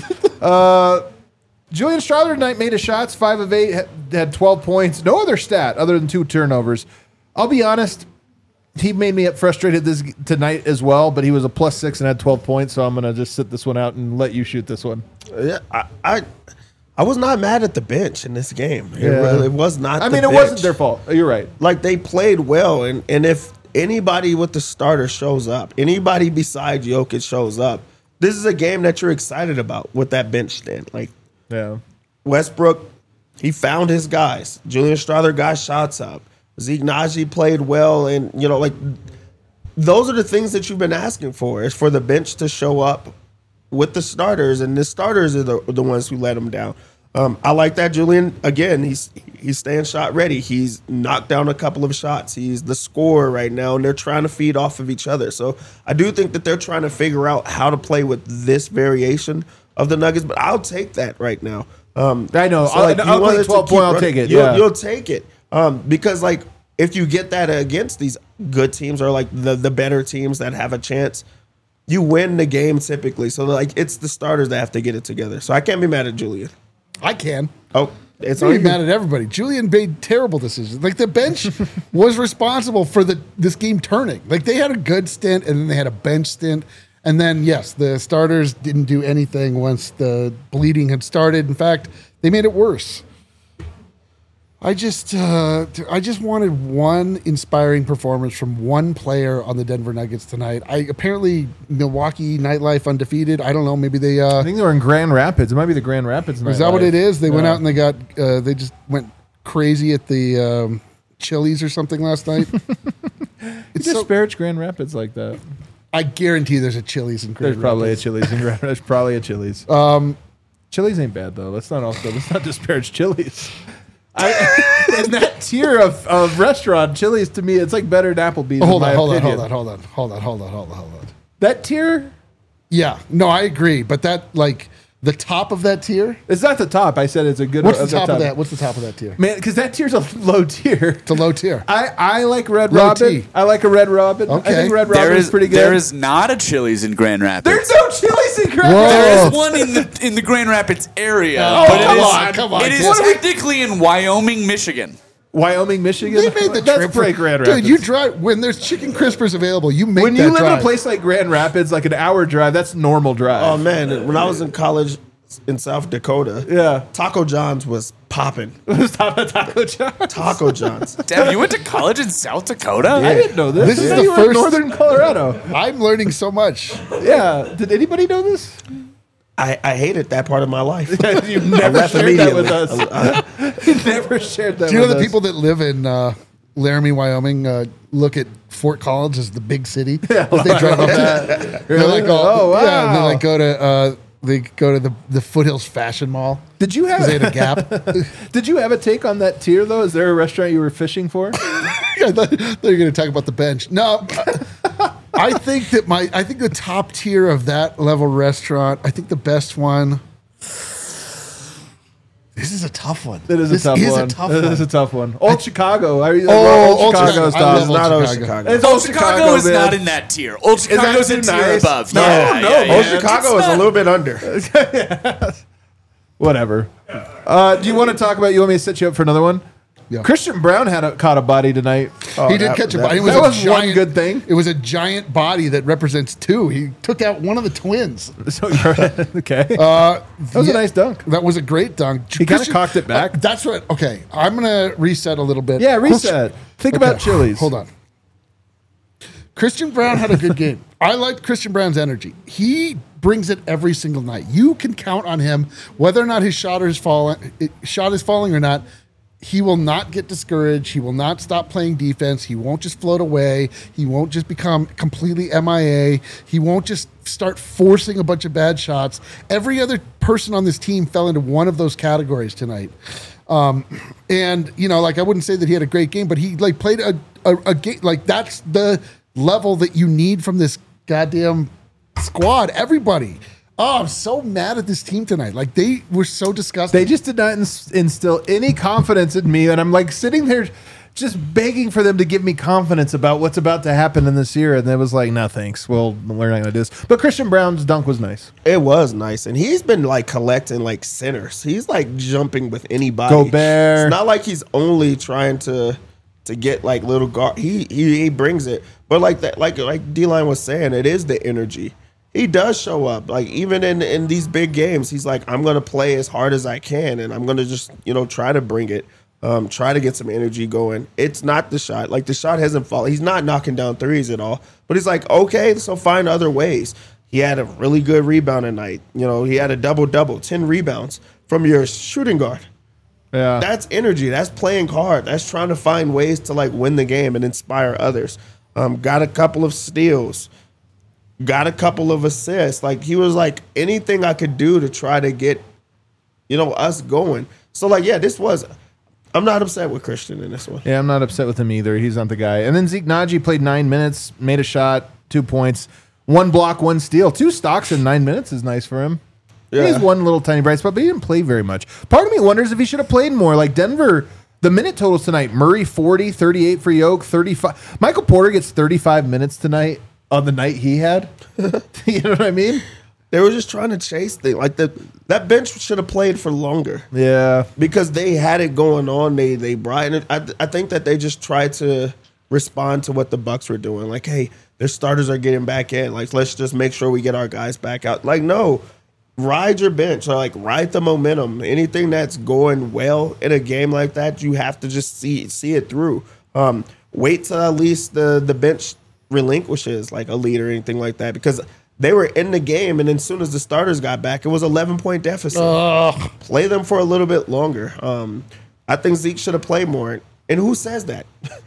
S1: Julian Strawther tonight made his shots, 5 of 8, had 12 points. No other stat other than 2 turnovers. I'll be honest, he made me frustrated tonight as well, but he was a +6 and had 12 points, so I'm going to just sit this one out and let you shoot this one.
S3: Yeah, I was not mad at the bench in this game. It was not.
S1: I
S3: the
S1: mean, it
S3: bench.
S1: wasn't their fault. You're right.
S3: Like, they played well, and if anybody with the starter shows up, anybody besides Jokic shows up, this is a game that you're excited about with that bench stand. Like,
S1: Yeah.
S3: Westbrook, he found his guys. Julian Strawther got shots up. Zeke Naji played well, and those are the things that you've been asking for, is for the bench to show up with the starters, and the starters are the ones who let them down. I like that Julian, again, he's staying shot ready. He's knocked down a couple of shots. He's the scorer right now, and they're trying to feed off of each other. So I do think that they're trying to figure out how to play with this variation of the Nuggets, but I'll take that right now.
S1: I know.
S3: So, like,
S1: I'll
S3: you want
S1: take
S3: us to
S1: 12
S3: keep
S1: point, I'll
S3: running.
S1: take it.
S3: You'll take it. Because, like, if you get that against these good teams or, like, the better teams that have a chance, you win the game typically. So, like, it's the starters that have to get it together. So I can't be mad at Julian.
S2: I can.
S3: Oh, it's
S2: I'm
S3: only
S2: mad at everybody. Julian made terrible decisions. Like, the bench was responsible for this game turning. Like, they had a good stint, and then they had a bench stint. And then, yes, the starters didn't do anything once the bleeding had started. In fact, they made it worse. I just wanted one inspiring performance from one player on the Denver Nuggets tonight. Apparently Milwaukee nightlife undefeated. I don't know. Maybe they.
S1: I think they were in Grand Rapids. It might be the Grand Rapids.
S2: Is that what
S1: nightlife.
S2: it is? They went
S1: Yeah.
S2: out and they got. They just went crazy at the Chili's or something last night.
S1: You disparage Grand Rapids like that.
S2: I guarantee there's a Chili's in Grand
S1: There's probably a
S2: Rapids.
S1: Chili's in Grand Rapids. There's probably a Chili's. Chili's ain't bad though. Let's not disparage Chili's. In that tier of restaurant, Chili's to me, it's like better than Applebee's.
S2: Hold
S1: in my
S2: on.
S1: opinion. That tier.
S2: Yeah, no, I agree. But that, like, the top of that tier.
S1: It's not the top. I said it's a good.
S2: What's the top of that? What's the top of that tier?
S1: Man, because that tier's a low tier.
S2: It's a low tier.
S1: I like Red
S2: Low
S1: Robin.
S2: T.
S1: I like a Red Robin.
S2: Okay.
S1: I think Red Robin is pretty good.
S4: There is not a Chili's in Grand Rapids.
S1: There's no Chili's in Grand
S2: Whoa.
S1: Rapids.
S4: There is one in the Grand Rapids area.
S2: Oh,
S4: but
S2: come on.
S4: It is
S2: What are we-
S4: technically in Wyoming, Michigan.
S1: Wyoming, Michigan.
S2: You made the
S1: That's
S2: trip
S1: pretty Grand Rapids.
S2: Dude, you drive when there's chicken crispers available. You make
S1: when
S2: that
S1: you live
S2: drive.
S1: in a place like Grand Rapids, like an hour drive, that's normal drive.
S3: Oh man, when I was in college in South Dakota,
S1: Yeah.
S3: Taco John's was popping.
S1: Stop at Taco John's.
S3: Taco John's.
S4: Damn, you went to college in South Dakota?
S1: I didn't know this.
S2: This is
S1: Yeah,
S2: the
S1: you were in
S2: first-
S1: Northern Colorado.
S2: I'm learning so much.
S1: Yeah. Did anybody know this?
S3: I hated that part of my life.
S1: You never
S3: left
S1: shared that with
S3: immediately.
S1: us. You never shared that.
S2: Do you know
S1: with
S2: the
S1: us.
S2: people that live in Laramie, Wyoming, look at Fort Collins as the big city? As they drive up there. They're like,
S1: Oh, wow.
S2: Yeah, and they like go to the Foothills Fashion Mall.
S1: Did you
S2: 'Cause they had a
S1: have
S2: Gap.
S1: Did you have a take on that tier though? Is there a restaurant you were fishing for?
S2: I thought you were going to talk about the bench. No, I think the top tier of that level restaurant. I think the best one. This is a tough one.
S1: It is
S2: This
S1: a tough
S2: is
S1: one.
S2: a tough
S1: It
S2: one.
S1: is a tough one. Old Chicago.
S2: Old
S1: Old
S2: Chicago.
S1: Chicago's
S2: I
S1: top.
S2: love
S3: It's not
S2: Old
S3: Old
S2: Chicago.
S3: Chicago.
S1: It's
S4: Old Chicago is
S1: man.
S4: not in that tier. Old Chicago's
S1: that
S4: a
S1: too
S4: tier
S1: nice?
S4: above.
S1: No,
S4: Yeah,
S1: no,
S4: yeah,
S1: Old
S3: Old
S4: yeah.
S3: Chicago
S4: It's
S3: is a
S4: not-
S3: little bit under.
S1: Whatever. Do you want to talk about? You want me to set you up for another one?
S2: Yeah.
S1: Christian Brown caught a body tonight.
S2: He did catch a body. It was
S1: that
S2: a
S1: was one
S2: giant,
S1: good thing.
S2: It was a giant body that represents two. He took out one of the twins.
S1: So okay. That was a nice dunk.
S2: That was a great dunk.
S1: He kinda cocked it back.
S2: That's what. Okay, I'm gonna reset a little bit.
S1: Yeah, reset. Think about Chili's.
S2: Hold on. Christian Brown had a good game. I liked Christian Brown's energy. He brings it every single night. You can count on him, whether or not his shot is falling or not. He will not get discouraged. He will not stop playing defense. He won't just float away. He won't just become completely MIA. He won't just start forcing a bunch of bad shots. Every other person on this team fell into one of those categories tonight. And you know, like I wouldn't say that he had a great game, but he like played a game. Like that's the level that you need from this goddamn squad. Everybody. Oh, I'm so mad at this team tonight. Like they were so disgusting.
S1: They just did not instill any confidence in me, and I'm like sitting there, just begging for them to give me confidence about what's about to happen in this year. And it was like, no, thanks. Well, we're not going to do this. But Christian Brown's dunk was nice.
S3: It was nice, and he's been like collecting like centers. He's like jumping with anybody.
S1: Gobert.
S3: It's not like he's only trying to get like little guard. He brings it, but like that, like D-Line was saying, it is the energy. He does show up. Like even in these big games, he's like, I'm gonna play as hard as I can, and I'm gonna just try to bring it, try to get some energy going. It's not the shot. Like the shot hasn't fallen. He's not knocking down threes at all. But he's like, okay, so find other ways. He had a really good rebound tonight. He had a double-double, 10 rebounds from your shooting guard.
S1: Yeah.
S3: That's energy. That's playing hard. That's trying to find ways to like win the game and inspire others. Got a couple of steals. Got a couple of assists. Like he was like anything I could do to try to get, us going. So like, yeah, I'm not upset with Christian in this one.
S1: Yeah, I'm not upset with him either. He's not the guy. And then Zeke Naji played 9 minutes, made a shot, 2 points, 1 block, 1 steal. 2 stocks in 9 minutes is nice for him.
S3: Yeah.
S1: He's one little tiny bright spot, but he didn't play very much. Part of me wonders if he should have played more. Like Denver, the minute totals tonight, Murray 40, 38 for Yoke, 35. Michael Porter gets 35 minutes tonight on the night he had. You know what I mean?
S3: They were just trying to chase things. Like that bench should have played for longer.
S1: Yeah.
S3: Because they had it going on. They brought it. I think that they just tried to respond to what the Bucks were doing. Like, hey, their starters are getting back in. Like, let's just make sure we get our guys back out. Like, no. Ride your bench. Or like ride the momentum. Anything that's going well in a game like that, you have to just see it through. Wait till at least the bench relinquishes like a lead or anything like that, because they were in the game, and then as soon as the starters got back, it was 11-point deficit. Play them for a little bit longer. I think Zeke should have played more. And who says that?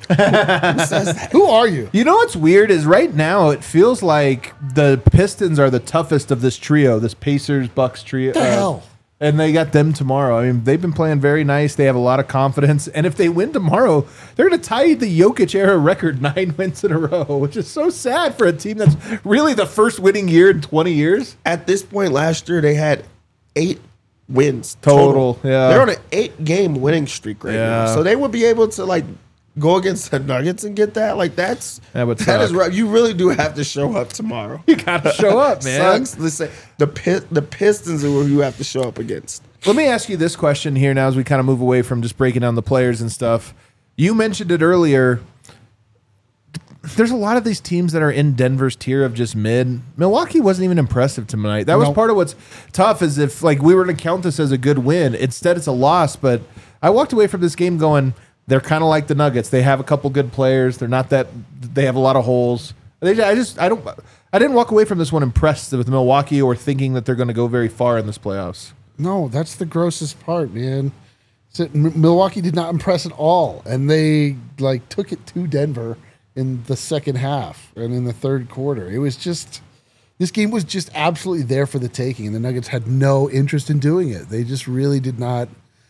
S3: Who says that?
S2: Who are you?
S1: You know what's weird is right now it feels like the Pistons are the toughest of this trio, this Pacers Bucks trio.
S2: What the hell?
S1: And they got them tomorrow. I mean, they've been playing very nice. They have a lot of confidence. And if they win tomorrow, they're going to tie the Jokic era record 9 wins in a row, which is so sad for a team that's really the first winning year in 20 years.
S3: At this point last year, they had 8 wins
S1: Total, yeah.
S3: They're on an 8-game winning streak right now.
S1: Yeah.
S3: So they would be able to, like, go against the Nuggets and get that. Like, that
S1: would
S3: that is
S1: suck.
S3: right. You really do have to show up tomorrow.
S1: You got to show up, man.
S3: Sucks. Let's say the Pistons are who you have to show up against.
S1: Let me ask you this question here now as we kind of move away from just breaking down the players and stuff. You mentioned it earlier. There's a lot of these teams that are in Denver's tier of just mid. Milwaukee wasn't even impressive tonight. That was
S2: Nope.
S1: part of what's tough is if like we were to count this as a good win. Instead, it's a loss. But I walked away from this game going, they're kind of like the Nuggets. They have a couple good players. They're not that. They have a lot of holes. I didn't walk away from this one impressed with Milwaukee or thinking that they're going to go very far in this playoffs.
S2: No, that's the grossest part, man. Milwaukee did not impress at all, and they like took it to Denver in the second half and in the third quarter. It was just this game was just absolutely there for the taking, and the Nuggets had no interest in doing it. They just really did not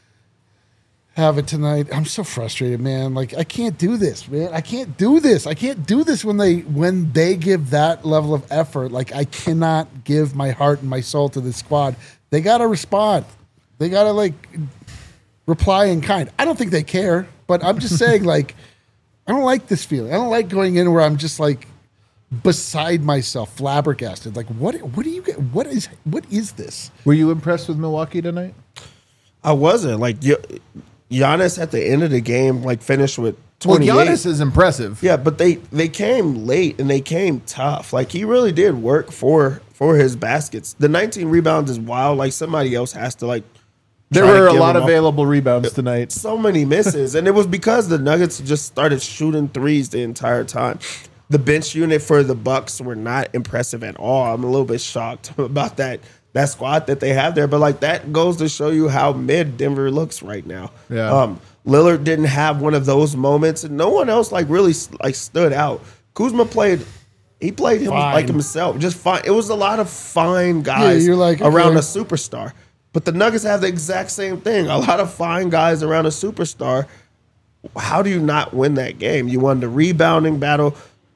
S2: have it tonight. I'm so frustrated, man. Like I can't do this, man. I can't do this. I can't do this when they give that level of effort. Like I cannot give my heart and my soul to this squad. They gotta respond. They gotta like reply in kind. I don't think they care, but I'm just saying, like, I don't like this feeling. I don't like going in where I'm just like beside myself, flabbergasted. Like, what do you get? What is this?
S1: Were you impressed with Milwaukee tonight?
S3: I wasn't. Like, Giannis at the end of the game, like, finished with 28.
S1: Well, Giannis is impressive.
S3: Yeah, but they came late and they came tough. Like, he really did work for his baskets. The 19 rebounds is wild. Like, somebody else has to, like,
S1: There
S3: try to
S1: were a
S3: give
S1: lot
S3: him
S1: of available rebounds tonight.
S3: so many misses. And it was because the Nuggets just started shooting threes the entire time. The bench unit for the Bucks were not impressive at all. I'm a little bit shocked about that squad that they have there. But, like, that goes to show you how mid Denver looks right now.
S1: Yeah.
S3: Lillard didn't have one of those moments, and no one else, like, really, like, stood out. Kuzma played him
S2: Fine.
S3: like himself, just fine. It was a lot of fine guys
S2: you're like,
S3: around
S2: okay.
S3: a superstar. But the Nuggets have the exact same thing. A lot of fine guys around a superstar. How do you not win that game? You won the rebounding battle.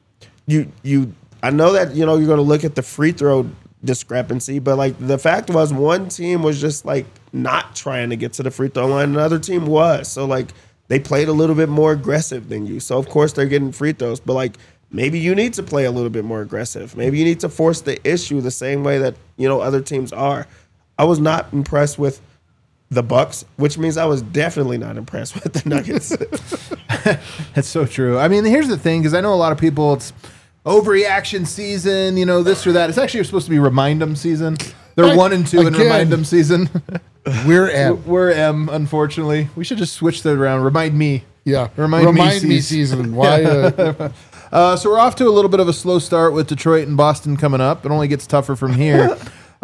S3: I know that, you're going to look at the free throw discrepancy, but, like, the fact was one team was just, like, not trying to get to the free throw line. Another team was. So, like, they played a little bit more aggressive than you. So, of course, they're getting free throws. But, like, maybe you need to play a little bit more aggressive. Maybe you need to force the issue the same way that, other teams are. I was not impressed with the Bucks, which means I was definitely not impressed with the Nuggets.
S1: That's so true. I mean, here's the thing, because I know a lot of people, it's overreaction season, this or that. It's actually supposed to be remind them season. They're 1 and 2 in
S2: Again.
S1: remind them season.
S2: We're at
S1: We're M, unfortunately. We should just switch that around. Remind me.
S2: yeah.
S1: Remind me
S2: season. Why?
S1: So we're off to a little bit of a slow start with Detroit and Boston coming up. It only gets tougher from here.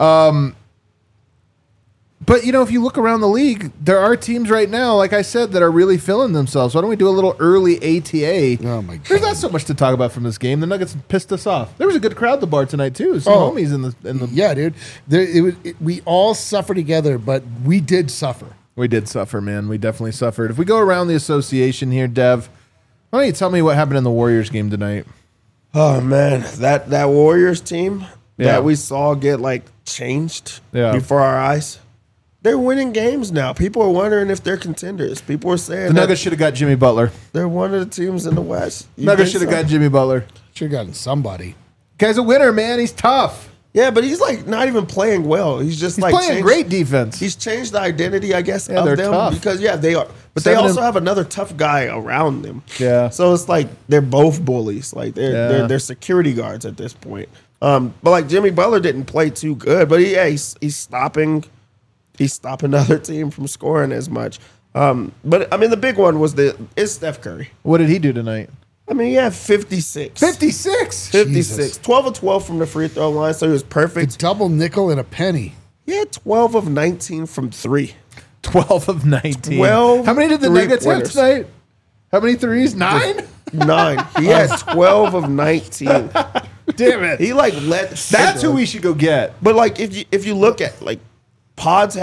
S1: But, if you look around the league, there are teams right now, like I said, that are really feeling themselves. Why don't we do a little early ATA?
S2: Oh, my God.
S1: There's not so much to talk about from this game. The Nuggets pissed us off. There was a good crowd at the bar tonight, too. Some
S2: Oh.
S1: homies in the.
S2: Yeah, dude. We all suffer together, but we did suffer.
S1: We did suffer, man. We definitely suffered. If we go around the association here, Dev, why don't you tell me what happened in the Warriors game tonight?
S3: Oh, man. That Warriors team
S1: Yeah.
S3: that we saw get, like, changed
S1: Yeah.
S3: before our eyes. They're winning games now. People are wondering if they're contenders. People are saying
S1: The
S3: that
S1: Nuggets should have got Jimmy Butler.
S3: they're one of the teams in the West. You
S1: Nuggets
S3: think
S1: should have
S3: so?
S1: got Jimmy Butler.
S2: Should have gotten somebody.
S1: Guy's a winner, man. He's tough.
S3: Yeah, but he's, like, not even playing well. He's just,
S1: He's
S3: like,
S1: playing
S3: changed-
S1: great defense.
S3: He's changed the identity, I guess,
S1: Yeah,
S3: of
S1: they're
S3: them
S1: tough.
S3: because they are. But they
S1: 7
S3: also
S1: and-
S3: have another tough guy around them.
S1: Yeah.
S3: So it's like they're both bullies. Like they're security guards at this point. But like Jimmy Butler didn't play too good, but he's stopping the other team from scoring as much. But I mean the big one is Steph Curry.
S1: What did he do tonight?
S3: I mean, he had 56.
S1: 56.
S3: 56.
S2: Jesus.
S3: 12 of 12 from the free throw line, so he was perfect.
S2: Double nickel and a penny.
S3: He had 12 of 19 from 3.
S1: 12 of 19.
S3: 12
S1: How many did the Nuggets have
S3: three-pointers.
S1: tonight? How many threes? 9?
S3: 9. He had 12 of 19.
S1: Damn it.
S3: He like let
S1: That's who we should go get.
S3: But like if you look at like Pods had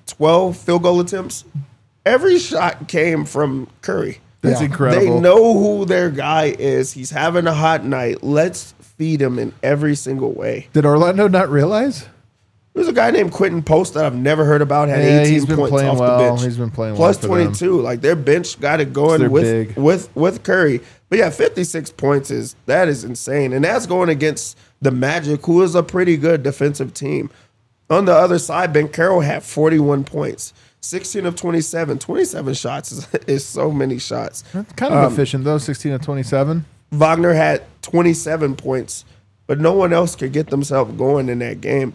S3: 12 field goal attempts. Every shot came from Curry.
S1: That's
S2: Yeah.
S1: incredible.
S3: They know who their guy is. He's having a hot night. Let's feed him in every single way.
S1: Did Orlando not realize?
S3: There's a guy named Quentin Post that I've never heard about. Had
S1: Yeah,
S3: 18
S1: he's been
S3: points
S1: playing
S3: off
S1: well.
S3: the bench.
S1: He's been playing
S3: Plus
S1: well for them.
S3: 22. Like their bench got it
S1: They're
S3: going
S1: big.
S3: with Curry. But yeah, 56 points is insane, and that's going against the Magic, who is a pretty good defensive team. On the other side, Ben Carroll had 41 points, 16 of 27. 27 shots is so many shots.
S1: That's kind of efficient though. 16 of 27.
S3: Wagner had 27 points, but no one else could get themselves going in that game.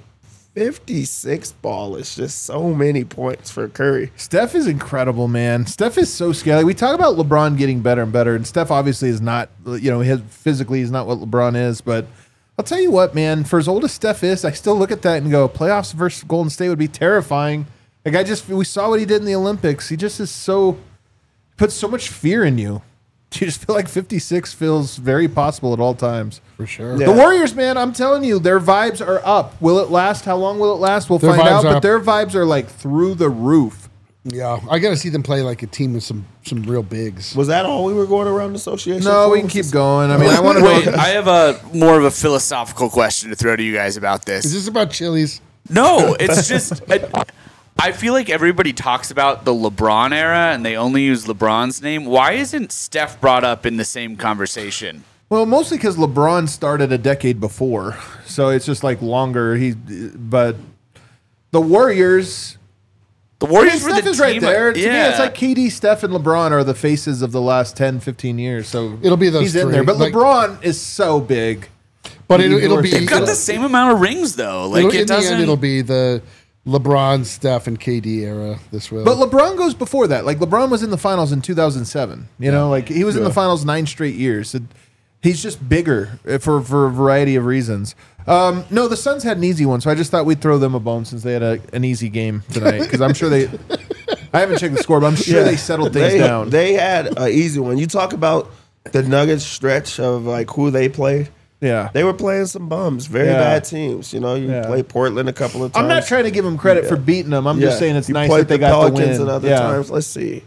S3: 56 ball is just so many points for Curry.
S1: Steph is incredible, man. Steph is so scaly. We talk about LeBron getting better and better, and Steph obviously is not, physically he's not what LeBron is, but I'll tell you what, man, for as old as Steph is, I still look at that and go, playoffs versus Golden State would be terrifying. Like we saw what he did in the Olympics. He just is puts so much fear in you. You just feel like 56 feels very possible at all times.
S2: For sure.
S3: Yeah.
S1: The Warriors, man, I'm telling you, their vibes are up. Will it last? How long will it last? We'll
S2: Their
S1: find
S2: vibes
S1: out.
S2: are
S1: But
S2: up.
S1: their vibes are like through the roof.
S2: Yeah, I got to see them play like a team with some real bigs.
S3: Was that all we were going around the association?
S1: No,
S3: for?
S1: we can keep going. I mean, I want to
S4: Wait,
S1: know.
S4: I have a more of a philosophical question to throw to you guys about
S2: Is
S4: this.
S2: this about Chili's?
S4: No, it's just I feel like everybody talks about the LeBron era and they only use LeBron's name. Why isn't Steph brought up in the same conversation?
S1: Well, mostly because LeBron started a decade before, so it's just like longer. But the Warriors.
S4: The Warriors were
S1: Steph
S4: the
S1: is right
S4: team.
S1: there. To me,
S4: Yeah.
S1: it's like KD, Steph, and LeBron are the faces of the last 10, 15 years. So
S2: It'll be those
S1: he's in
S2: three.
S1: there. But
S2: Like-
S1: LeBron is so big.
S2: But it'll be
S4: They've got the same amount of rings though. Like
S2: in
S4: it
S2: the
S4: doesn't.
S2: end, it'll be the LeBron, Steph, and KD era. This will.
S1: But LeBron goes before that. Like LeBron was in the finals in 2007. You know, like he was in the finals 9 straight years. He's just bigger for a variety of reasons. No, the Suns had an easy one, so I just thought we'd throw them a bone since they had an easy game tonight. Because I'm sure they. I haven't checked the score, but I'm sure they settled things down.
S3: They had an easy one. You talk about the Nuggets stretch of like who they played.
S1: Yeah.
S3: They were playing some bums, very
S1: Yeah.
S3: bad teams. You know, you
S1: Yeah.
S3: played Portland a couple of times.
S1: I'm not trying to give them credit for beating them. I'm just saying it's
S3: You
S1: nice
S3: played
S1: that they
S3: the
S1: got the
S3: Pelicans
S1: win.
S3: and other
S1: Yeah.
S3: times. Let's see.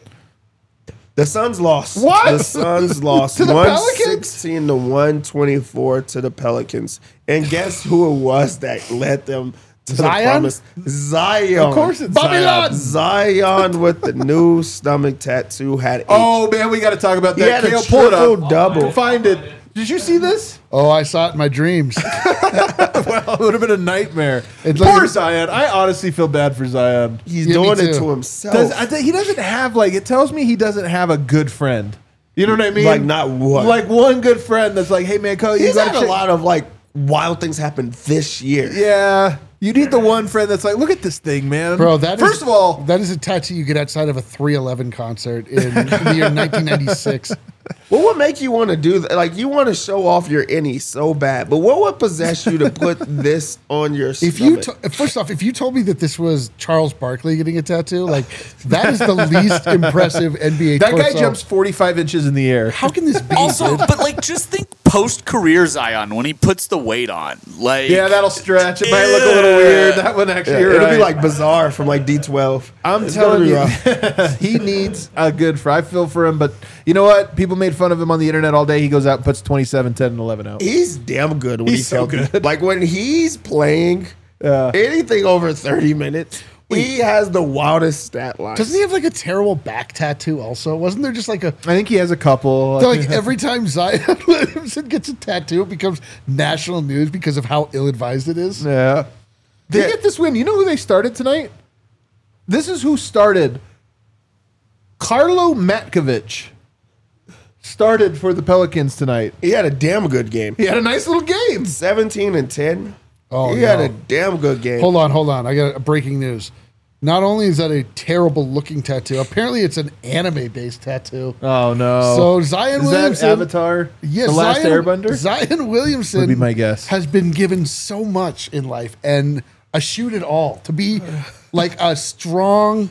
S3: The Suns lost.
S1: What?
S3: The Suns lost
S1: To the
S3: 116 to 124 to the Pelicans. And guess who it was that led them to the
S2: Zion?
S3: promise? Zion.
S1: Of course it's
S2: Babylon!
S1: Zion.
S3: Zion with the new stomach tattoo had 8.
S1: Oh man, we got to talk about
S3: He
S1: that.
S3: had a
S1: Kale, pull it up.
S3: triple-double.
S1: Find it. Did you see this?
S2: Oh, I saw it in my dreams.
S1: Well, it would have been a nightmare.
S2: It's
S1: Poor
S2: like-
S1: Zion. I honestly feel bad for Zion.
S3: He's
S2: Yeah, me
S3: doing it
S2: too.
S3: to himself.
S1: He doesn't have it tells me he doesn't have a good friend. You know what I mean?
S3: Like, not one.
S1: Like one good friend that's like, hey man, Cole, you
S3: He's
S1: got
S3: had a lot of like wild things happen this year.
S1: Yeah. You need the one friend that's like, look at this thing, man.
S2: Bro,
S1: First of all,
S2: that is a tattoo you get outside of a 311 concert in the year 1996.
S3: What would make you want to do that? Like, you want to show off your innie so bad, but what would possess you to put this on your
S2: If you
S3: stomach?
S2: first off, if you told me that this was Charles Barkley getting a tattoo, like that is the least impressive NBA.
S1: that guy
S2: torso.
S1: jumps 45 inches in the air.
S2: How can this be?
S4: Also,
S2: dude?
S4: but like, just think post-career Zion when he puts the weight on. Like,
S1: Yeah, that'll stretch. It might look a little weird. That one actually,
S3: Yeah,
S1: you're
S3: it'll
S1: right.
S3: be like Bizarre from like D12.
S1: I'm
S3: It's
S1: telling
S3: gonna be
S1: you,
S3: rough.
S1: he needs a good fry. I feel for him, but you know what? People made fun of him on the internet all day. He goes out and puts 27, 10, and 11 out.
S3: He's damn good when
S1: He's
S3: he's
S1: so
S3: healthy.
S1: good.
S3: Like when he's playing anything over 30 minutes, he has the wildest stat line.
S2: Doesn't he have like a terrible back tattoo? Also, wasn't there just like a
S1: I think he has a couple.
S2: like every time Zion Williamson gets a tattoo, it becomes national news because of how ill-advised it is.
S1: Yeah. They
S3: Yeah.
S1: get this win. You know who they started tonight? This is who started. Carlo Matkovic started for the Pelicans tonight.
S3: He had a damn good game.
S1: He had a nice little game.
S3: 17 and 10.
S2: Oh,
S3: he had
S2: no.
S3: a damn good game.
S2: Hold on. I got a breaking news. Not only is that a terrible looking tattoo, apparently it's an anime based tattoo.
S1: Oh no!
S2: So Zion
S1: is
S2: Williamson,
S1: that Avatar?
S2: Yes,
S1: the last Airbender.
S2: Zion Williamson
S1: Would be my guess.
S2: has been given so much in life and eschewed it all to be like a strong,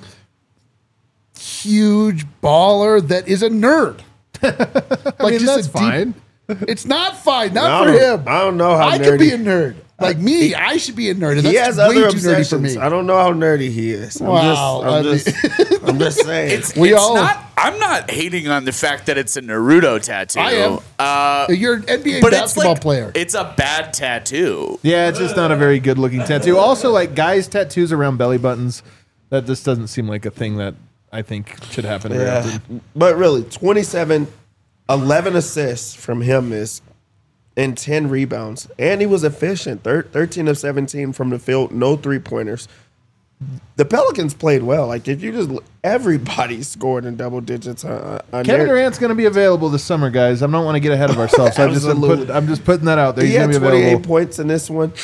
S2: huge baller that is a nerd. Like
S1: I mean,
S2: just
S1: that's
S2: a deep-
S1: fine.
S2: It's not fine,
S3: I
S2: not for
S3: don't-
S2: him.
S3: I don't know how
S2: I could be
S3: nerdy-
S2: a nerd. Like me, I should be a nerd.
S3: He has
S2: That's way
S3: other
S2: too nerdy for
S3: obsessions.
S2: me.
S3: I don't know how nerdy he is.
S2: Wow.
S3: I'm just saying.
S4: I'm not hating on the fact that it's a Naruto tattoo.
S2: I am. You're an NBA
S4: But
S2: basketball
S4: it's like,
S2: player.
S4: it's a bad tattoo.
S1: Yeah, it's just not a very good looking tattoo. Also, like guys' tattoos around belly buttons, that just doesn't seem like a thing that I think should happen very often.
S3: But really, 27, 11 assists from him and 10 rebounds. And he was efficient, 13 of 17 from the field, no three-pointers. The Pelicans played well. Like, if you just everybody scored in double digits.
S1: Kevin Durant's going to be available this summer, guys. I don't want to get ahead of ourselves. So I'm just putting that out there.
S3: He
S1: He's
S3: had
S1: going to be
S3: 28
S1: available.
S3: points in this one.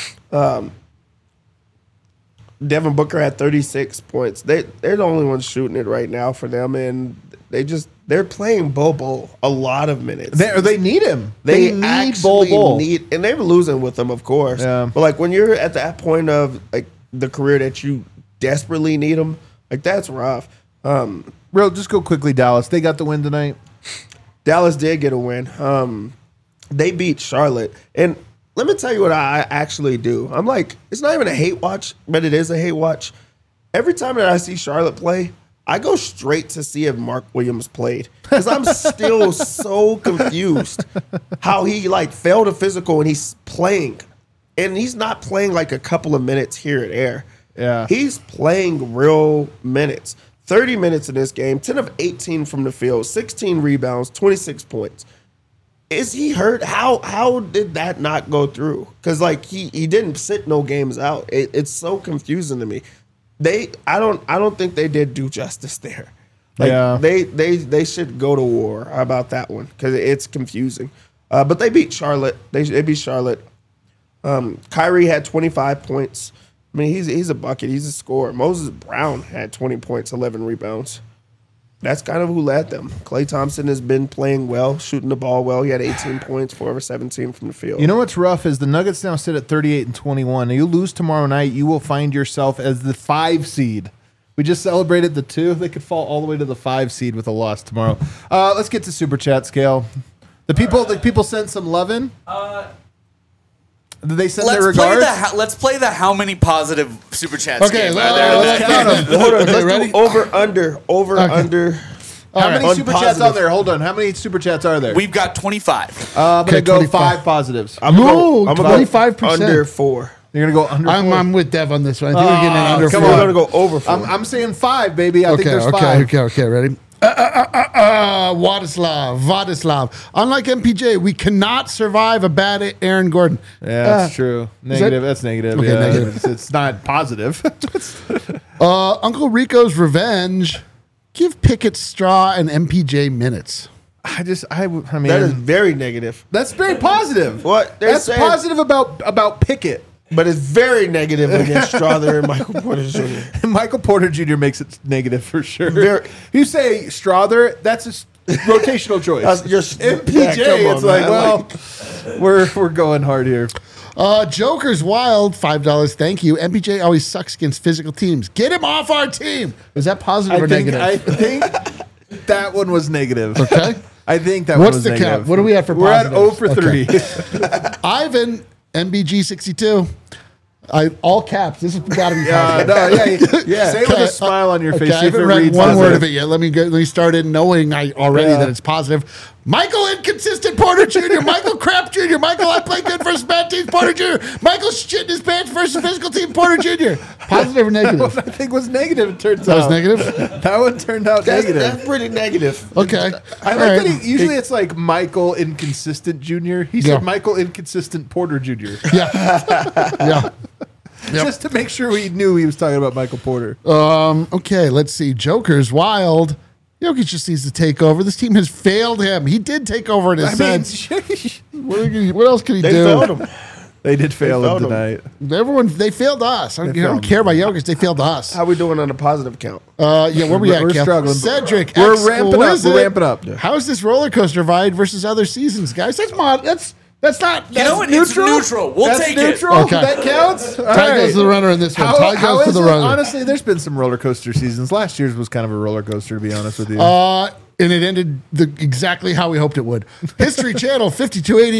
S3: Devin Booker had 36 points. They're the only ones shooting it right now for them, and they're playing Bobo a lot of minutes.
S1: They need him.
S3: They
S1: need
S3: actually
S1: Bol.
S3: need, and they're losing with him, of course.
S1: Yeah.
S3: But like when you're at that point of like the career that you desperately need him, like that's rough.
S1: Real, just go quickly, Dallas. They got the win tonight.
S3: Dallas did get a win. They beat Charlotte, and let me tell you what I actually do. I'm like, it's not even a hate watch, but it is a hate watch. Every time that I see Charlotte play, I go straight to see if Mark Williams played because I'm still so confused how he like failed a physical and he's playing, and he's not playing like a couple of minutes here and there.
S1: Yeah.
S3: He's playing real minutes. 30 minutes in this game, 10 of 18 from the field, 16 rebounds, 26 points. Is he hurt? How did that not go through? Because like he didn't sit no games out. It's so confusing to me. I don't think they did do justice there. Like,
S1: Yeah.
S3: They should go to war about that one because it's confusing. But they beat Charlotte. They beat Charlotte. Kyrie had 25 points. I mean, he's a bucket. He's a scorer. Moses Brown had 20 points, 11 rebounds. That's kind of who led them. Klay Thompson has been playing well, shooting the ball well. He had 18 points, 4 over 17 from the field.
S1: You know what's rough is the Nuggets now sit at 38 and 21. You lose tomorrow night, you will find yourself as the 5 seed. We just celebrated the 2. They could fall all the way to the 5 seed with a loss tomorrow. Let's get to Super Chat Scale. The people sent some lovin'. Did they send their regards?
S4: Let's play the how many positive super chats.
S2: Okay,
S4: game.
S2: let's count them.
S3: Hold on,
S2: Okay,
S3: let's
S2: ready?
S3: do over, under.
S1: How many
S3: On
S1: super chats
S3: positive.
S1: are there? Hold on. How many super chats are there?
S4: We've got 25.
S1: I'm
S2: Okay,
S1: going to go
S2: 25.
S1: 5 positives.
S3: I'm
S2: No,
S3: gonna go
S2: 25%.
S3: under 4.
S1: You're going to go under 4?
S2: I'm with Dev on this one. I think we're getting an under
S1: come
S2: four.
S3: I'm gonna go over 4.
S1: I'm saying 5, baby. I think there's 5.
S2: Okay. Ready? Vladislav. Unlike MPJ, we cannot survive a bad Aaron Gordon.
S1: Yeah, that's true. Negative. That's negative.
S2: Okay,
S1: yeah.
S2: negative.
S1: It's not positive.
S2: Uncle Rico's revenge. Give Pickett, Straw, and MPJ minutes.
S1: I mean,
S3: That is very negative.
S1: that's very positive.
S3: What? They're
S1: That's
S3: saying-
S1: positive about Pickett.
S3: But it's very negative against Strawther and Michael Porter Jr.
S1: Michael Porter Jr. makes it negative for sure.
S3: Very-
S1: If you say Strawther, that's a rotational choice.
S3: That's just-
S1: MPJ,
S3: yeah, come on,
S1: it's like,
S3: man.
S1: well, we're going hard here.
S2: Joker's Wild, $5. Thank you. MPJ always sucks against physical teams. Get him off our team. Was that positive or negative?
S1: I think that one was negative.
S2: Okay.
S1: I think that
S2: What's
S1: one was
S2: the
S1: negative.
S2: count? What are we at for
S1: We're at
S2: positives?
S1: 0 for 3.
S2: Ivan, MBG62. All caps. This has got to be positive.
S1: No, yeah. Say it with a smile on your face.
S2: Okay,
S1: See
S2: I
S1: if it
S2: haven't read
S1: reads
S2: one
S1: positive.
S2: word of it yet. Let me start in knowing already that it's positive. Michael Inconsistent Porter Jr., Michael Crap Jr., Michael I play good versus bad teams Porter Jr., Michael shit in his pants versus physical team Porter Jr. Positive or
S1: That
S2: negative?
S1: one I think was negative. It turns
S2: That
S1: out
S2: was negative?
S1: That one turned out
S3: That's
S1: negative.
S3: pretty negative.
S2: Okay.
S1: I
S2: All
S1: like
S2: right.
S1: that usually it's like Michael Inconsistent Jr. He
S2: Yeah.
S1: said Michael Inconsistent Porter Jr.
S2: Yeah.
S1: Just to make sure we knew he was talking about Michael Porter.
S2: Okay, let's see. Joker's Wild. Jokic just needs to take over. This team has failed him. He did take over in a
S1: I mean,
S2: sense. What else can he
S3: They
S2: do?
S3: failed him.
S1: they did fail him
S3: failed him.
S1: tonight.
S2: They failed us. I
S1: They
S2: don't
S1: failed.
S2: care about Jokic. They failed us.
S3: How we doing on the positive count?
S2: Yeah, where we at,
S1: We're
S2: Kel?
S1: struggling.
S2: Cedric,
S1: We're ramping up.
S2: exquisite.
S1: We're ramping up.
S2: How is this roller coaster ride versus other seasons, guys? That's not.
S4: You know what? It's neutral. We'll
S1: That's
S4: take
S1: neutral?
S2: Okay.
S1: That counts? All
S2: Ty
S1: right.
S2: goes to the runner in this one. Ty
S1: How
S2: goes to
S1: is
S2: the
S1: it?
S2: runner.
S1: Honestly, there's been some roller coaster seasons. Last year's was kind of a roller coaster, to be honest with you.
S2: And it ended exactly how we hoped it would. History Channel 5280.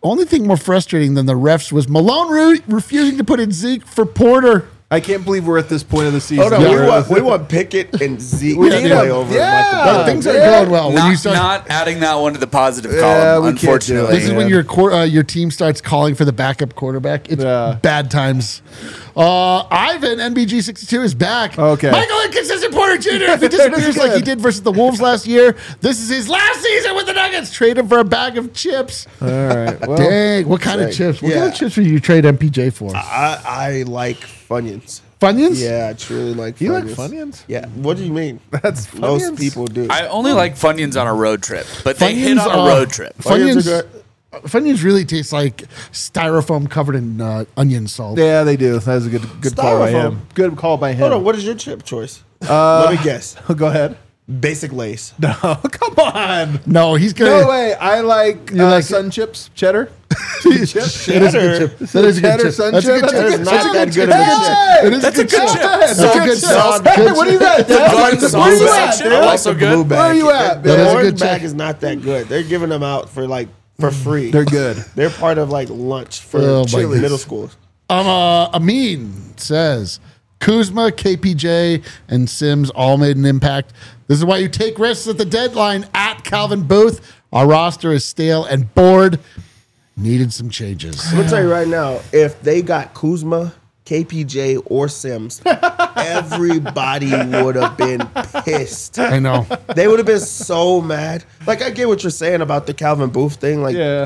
S2: Only thing more frustrating than the refs was Malone refusing to put in Zeke for Porter.
S1: I can't believe we're at this point of the season.
S3: Hold on,
S2: Yeah.
S3: we want Pickett and Zeke
S1: We
S3: to
S1: need
S3: play
S1: him.
S3: over
S1: Yeah.
S3: Michael
S2: No,
S3: Porter.
S2: things aren't going well. When you start,
S4: Not adding that one to the positive
S1: Yeah,
S4: column,
S1: we can't do
S4: unfortunately.
S1: it.
S2: this is when your team starts calling for the backup quarterback. It's
S1: Yeah.
S2: bad times. Ivan, NBG62 is back.
S1: Okay.
S2: Michael Inconsistent Porter Jr. If he disappears like he did versus the Wolves last year, this is his last season with the Nuggets. Trade him for a bag of chips.
S1: All right. Well,
S2: Dang, what kind of chips? What kind of chips would you trade MPJ for?
S3: I like Funyuns.
S2: Funyuns?
S3: Yeah, I truly like
S1: you
S3: Funyuns.
S1: like Funyuns?
S3: Yeah. What do you mean?
S1: That's
S3: Most
S1: Funyuns?
S3: people do.
S4: I only like Funyuns on a road trip, but they hit
S2: Funyuns
S4: on a
S2: are-
S4: road trip.
S3: Funyuns are
S2: Funyuns,
S3: good.
S2: Funyuns really taste like styrofoam covered in onion salt.
S1: Yeah, they do. That was a good call by
S3: Styrofoam.
S1: him. Good call by him.
S3: Hold on, what is your chip choice? Let me guess.
S1: Go ahead.
S3: Basic Lace.
S1: No, come on.
S2: No, he's gonna.
S1: No way. I like,
S2: like
S1: sun chips, cheddar.
S2: It is a good chip. That is a good
S1: Cheddar
S2: chip.
S1: sun
S2: That's a
S1: chip.
S2: good chip.
S3: That is not that good of a
S1: Hey,
S2: It is
S4: That's a good chip.
S2: That's
S1: That's
S2: a good
S1: chip.
S2: sauce.
S1: Hey, what do you got?
S4: garden
S1: Where
S4: sauce
S1: you at,
S4: section
S1: dude?
S4: are also good.
S1: Where are you at,
S3: The
S2: That is a
S1: man?
S2: good
S3: orange bag
S2: chip.
S3: is not that good. They're giving them out for free.
S1: They're good.
S3: They're part of like lunch for
S2: Oh, my
S3: chili
S2: goodness.
S3: middle schools.
S2: Amin says Kuzma, KPJ, and Sims all made an impact. This is why you take risks at the deadline at Calvin Booth. Our roster is stale and bored. Needed some changes.
S3: I'm gonna tell you right now, if they got Kuzma, KPJ, or Sims, everybody would have been pissed.
S2: I know.
S3: They would have been so mad. Like I get what you're saying about the Calvin Booth thing. Like
S1: Yeah.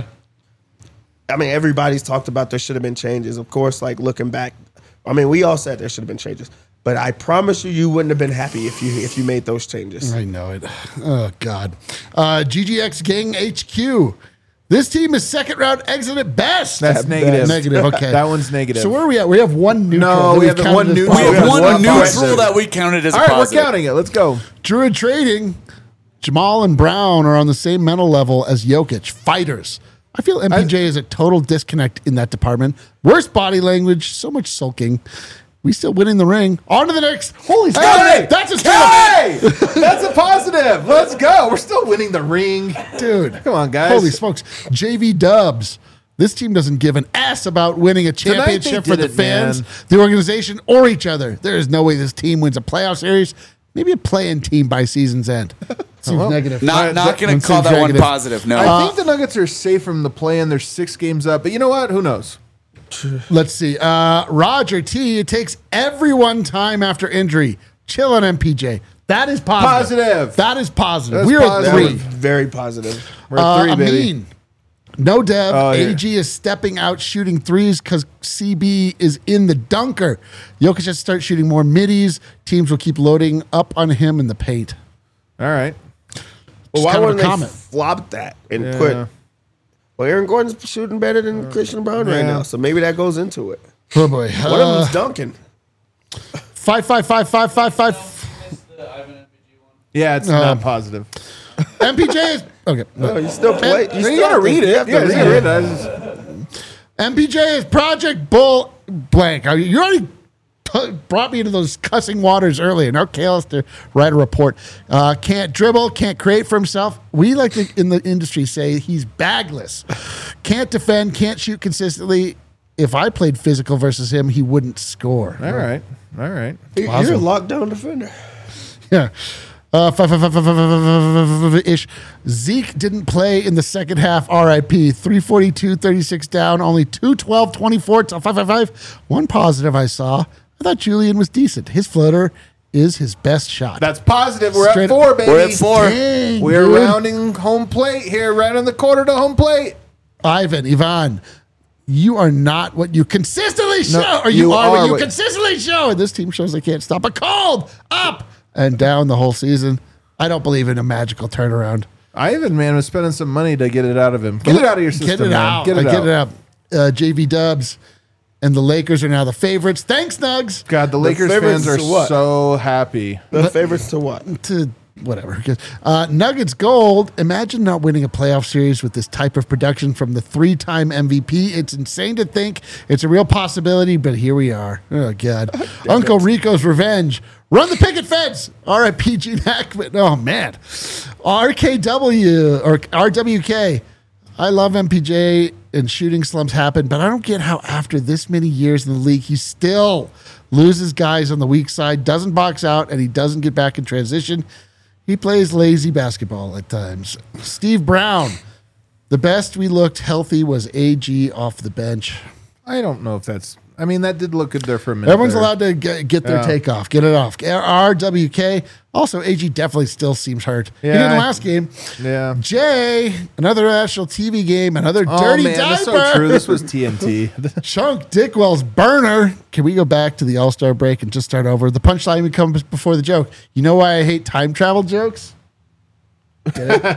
S3: I mean, everybody's talked about there should have been changes. Of course, like looking back, I mean, we all said there should have been changes. But I promise you wouldn't have been happy if you made those changes.
S2: I know it. Oh, God. GGX Gang HQ. This team is second round exit at best.
S1: That's negative.
S2: Negative, okay.
S1: That one's negative.
S2: So where are we at? We have one neutral.
S1: No,
S2: that
S1: we
S2: we've
S1: have
S2: counted
S1: one
S2: as
S1: neutral.
S4: We
S2: positive.
S4: have one
S3: one
S4: neutral
S3: positive.
S4: that we counted as
S1: All
S4: a
S1: right,
S4: positive.
S1: we're counting it. Let's go.
S2: Druid Trading, Jamal and Brown are on the same mental level as Jokic. Fighters. I feel MPJ is a total disconnect in that department. Worse body language, so much sulking. We still winning the ring. On to the next. Holy
S1: Hey,
S2: that's a
S1: hey, that's a positive. Let's go. We're still winning the ring.
S2: dude.
S1: Come on, guys.
S2: Holy smokes. JV Dubs. This team doesn't give an ass about winning a championship
S1: they
S2: for
S1: did
S2: the
S1: it,
S2: fans,
S1: man.
S2: the organization, or each other. There is no way this team wins a playoff series. Maybe a play-in team by season's end. Seems negative.
S4: Not going
S2: Seems
S4: to call that one
S2: negative.
S4: positive. No.
S1: I think the Nuggets are safe from the play-in. They're 6 games up. But you know what? Who knows?
S2: Let's see. Roger T. It takes everyone time after injury. Chill on MPJ. That is positive.
S1: Positive.
S2: That is positive.
S1: That's
S2: We're at
S1: positive.
S3: That was
S2: 3.
S3: very positive.
S1: We're at 3, baby.
S2: Amin. No Dev.
S1: Oh, yeah.
S2: AG is stepping out shooting threes because CB is in the dunker. Jokic has to start shooting more middies. Teams will keep loading up on him in the paint.
S1: All right.
S3: Well, why
S2: kind of a
S3: wouldn't they
S2: comment.
S3: flop that and
S1: Yeah.
S3: put? Well, Aaron Gordon's shooting better than Christian Brown right
S1: Yeah.
S3: now, so maybe that goes into it.
S2: Oh boy.
S3: One of them's dunking.
S2: 5.
S1: Yeah, it's not positive.
S2: MPJ is okay.
S3: No, you still play.
S1: You gotta read it.
S3: You
S1: You
S3: have to
S1: gotta
S3: read
S1: read
S3: it.
S1: it.
S2: MPJ is Project Bull blank. You already brought me into those cussing waters earlier. Now Kale has to write a report. Can't dribble, can't create for himself. We like to, in the industry, say he's bagless. Can't defend, can't shoot consistently. If I played physical versus him, he wouldn't score.
S1: All right. All right.
S3: You're a lockdown defender.
S2: Yeah. 5-ish. Zeke didn't play in the second half. RIP. 342, 36 down. Only 212, 24 till 5. One positive I saw. I thought Julian was decent. His floater is his best shot.
S1: That's positive. We're
S2: Straight
S1: at 4, baby.
S4: We're at 4.
S2: Dang,
S1: We're
S2: dude.
S1: rounding home plate here, right on the quarter to home plate.
S2: Ivan, you are not what you consistently show. Or you are what you consistently show. And this team shows they can't stop a cold. Up and down the whole season. I don't believe in a magical turnaround.
S1: Ivan, man, was spending some money to get it out of him. Get it out of your system,
S2: Get it
S1: man.
S2: out.
S1: Get it out.
S2: JV Dubs and the Lakers are now the favorites. Thanks, Nugs.
S1: God, the Lakers
S3: favorites
S1: fans are
S3: to what?
S1: so happy.
S3: The favorites to what?
S2: To whatever. Nuggets gold. Imagine not winning a playoff series with this type of production from the 3-time MVP. It's insane to think it's a real possibility, but here we are. Oh, God. Uncle Rico's revenge. Run the picket fence. R.I.P. Gene Hackman. Oh, man. RKW or RWK. I love MPJ and shooting slumps happen, but I don't get how after this many years in the league, he still loses guys on the weak side, doesn't box out, and he doesn't get back in transition. He plays lazy basketball at times. Steve Brown, the best we looked healthy was AG off the bench.
S1: I don't know if that's. I mean, that did look good there for a minute.
S2: Everyone's
S1: there.
S2: allowed to get their take off, get it off. RWK. Also, AG definitely still seems hurt. He didn't last game.
S1: Yeah.
S2: Jay, another national TV game, another dirty diaper.
S1: That's so true. This was TNT.
S2: Chunk Dickwell's burner. Can we go back to the All-Star break and just start over? The punchline even comes before the joke. You know why I hate time travel jokes? Get it?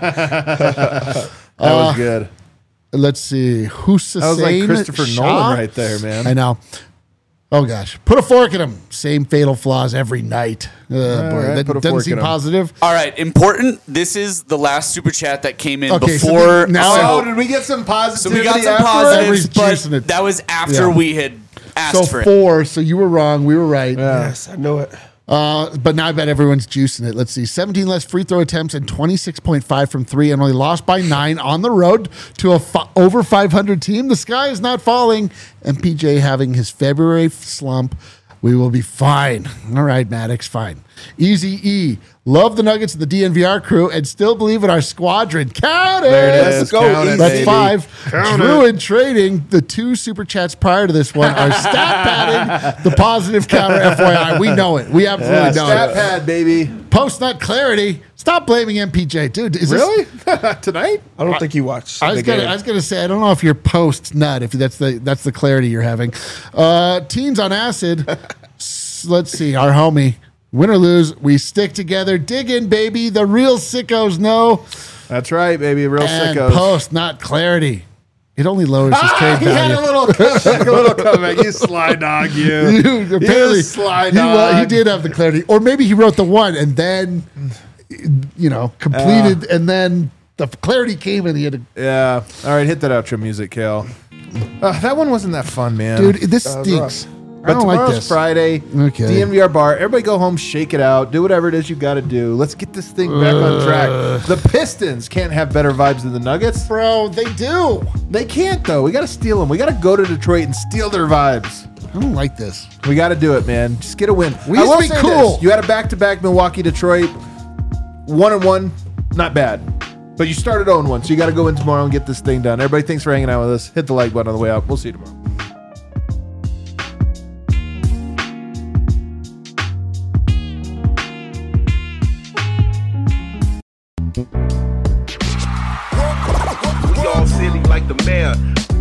S1: That was good.
S2: Let's see. Hussein
S1: That was like Christopher
S2: Shah?
S1: Nolan right there, man.
S2: I know. Oh, gosh. Put a fork in him. Same fatal flaws every night. Boy,
S1: right,
S2: that
S1: put a
S2: doesn't
S1: fork
S2: seem
S1: in him.
S2: positive.
S4: All right, important. This is the last super chat that came in
S2: Okay, so
S4: before.
S2: now-
S1: Oh, did we get some
S4: So
S1: positivity?
S4: we got some
S1: afterwards?
S2: Everybody's
S4: positives,
S2: juicing
S4: but
S2: it.
S4: that was after
S2: Yeah.
S4: we had asked
S2: So
S4: for it.
S2: 4. So you were wrong. We were right.
S3: Yes, I know it.
S2: But now I bet everyone's juicing it. Let's see. 17 less free throw attempts and 26.5 from 3 and only lost by 9 on the road to a over 500 team. The sky is not falling. And PJ having his February slump. We will be fine. All right, Maddox, fine. Easy E. Love the Nuggets and the DNVR crew and still believe in our squadron. Count it.
S1: There it is.
S3: Let's go,
S1: Count it,
S3: Easy.
S2: That's
S1: baby.
S2: 5.
S1: Count
S2: Drew in trading. The 2 super chats prior to this one are stat padding the positive counter. FYI, we know it. We absolutely know
S1: Stat
S2: it.
S1: pad, baby.
S2: Post nut clarity. Stop blaming MPJ, dude. Is this-
S1: Really? Tonight?
S3: I don't think he watched.
S2: I was gonna say I don't know if you're post nut if that's the clarity you're having. Teens on acid. Let's see, our homie. Win or lose, we stick together. Dig in, baby. The real sickos know.
S1: That's right, baby. Real
S2: And
S1: sickos.
S2: post not clarity. It only lowers his trade
S1: He had
S2: value.
S1: a little comeback. You sly dog, you.
S2: Dude, apparently
S1: You sly
S2: he
S1: dog.
S2: did have the clarity, or maybe he wrote the one and then, completed, and then the clarity came and he had to.
S1: Yeah. All right, hit that outro music, Kale. That one wasn't that fun, man.
S2: Dude, this stinks. I
S1: But
S2: don't like
S1: tomorrow's
S2: this.
S1: Friday.
S2: Okay.
S1: DNVR bar. Everybody go home, shake it out, do whatever it is you got to do. Let's get this thing back on track. The Pistons can't have better vibes than the Nuggets.
S2: Bro, they do.
S1: They can't, though. We got to steal them. We got to go to Detroit and steal their vibes.
S2: I don't like this.
S1: We got to do it, man. Just get a win.
S2: We
S1: I
S2: used to
S1: will
S2: be
S1: say
S2: cool.
S1: this. You had a back-to-back Milwaukee, Detroit. 1-1, not bad. But you started 0-1, so you got to go in tomorrow and get this thing done. Everybody, thanks for hanging out with us. Hit the like button on the way out. We'll see you tomorrow.
S5: We all silly like the mayor.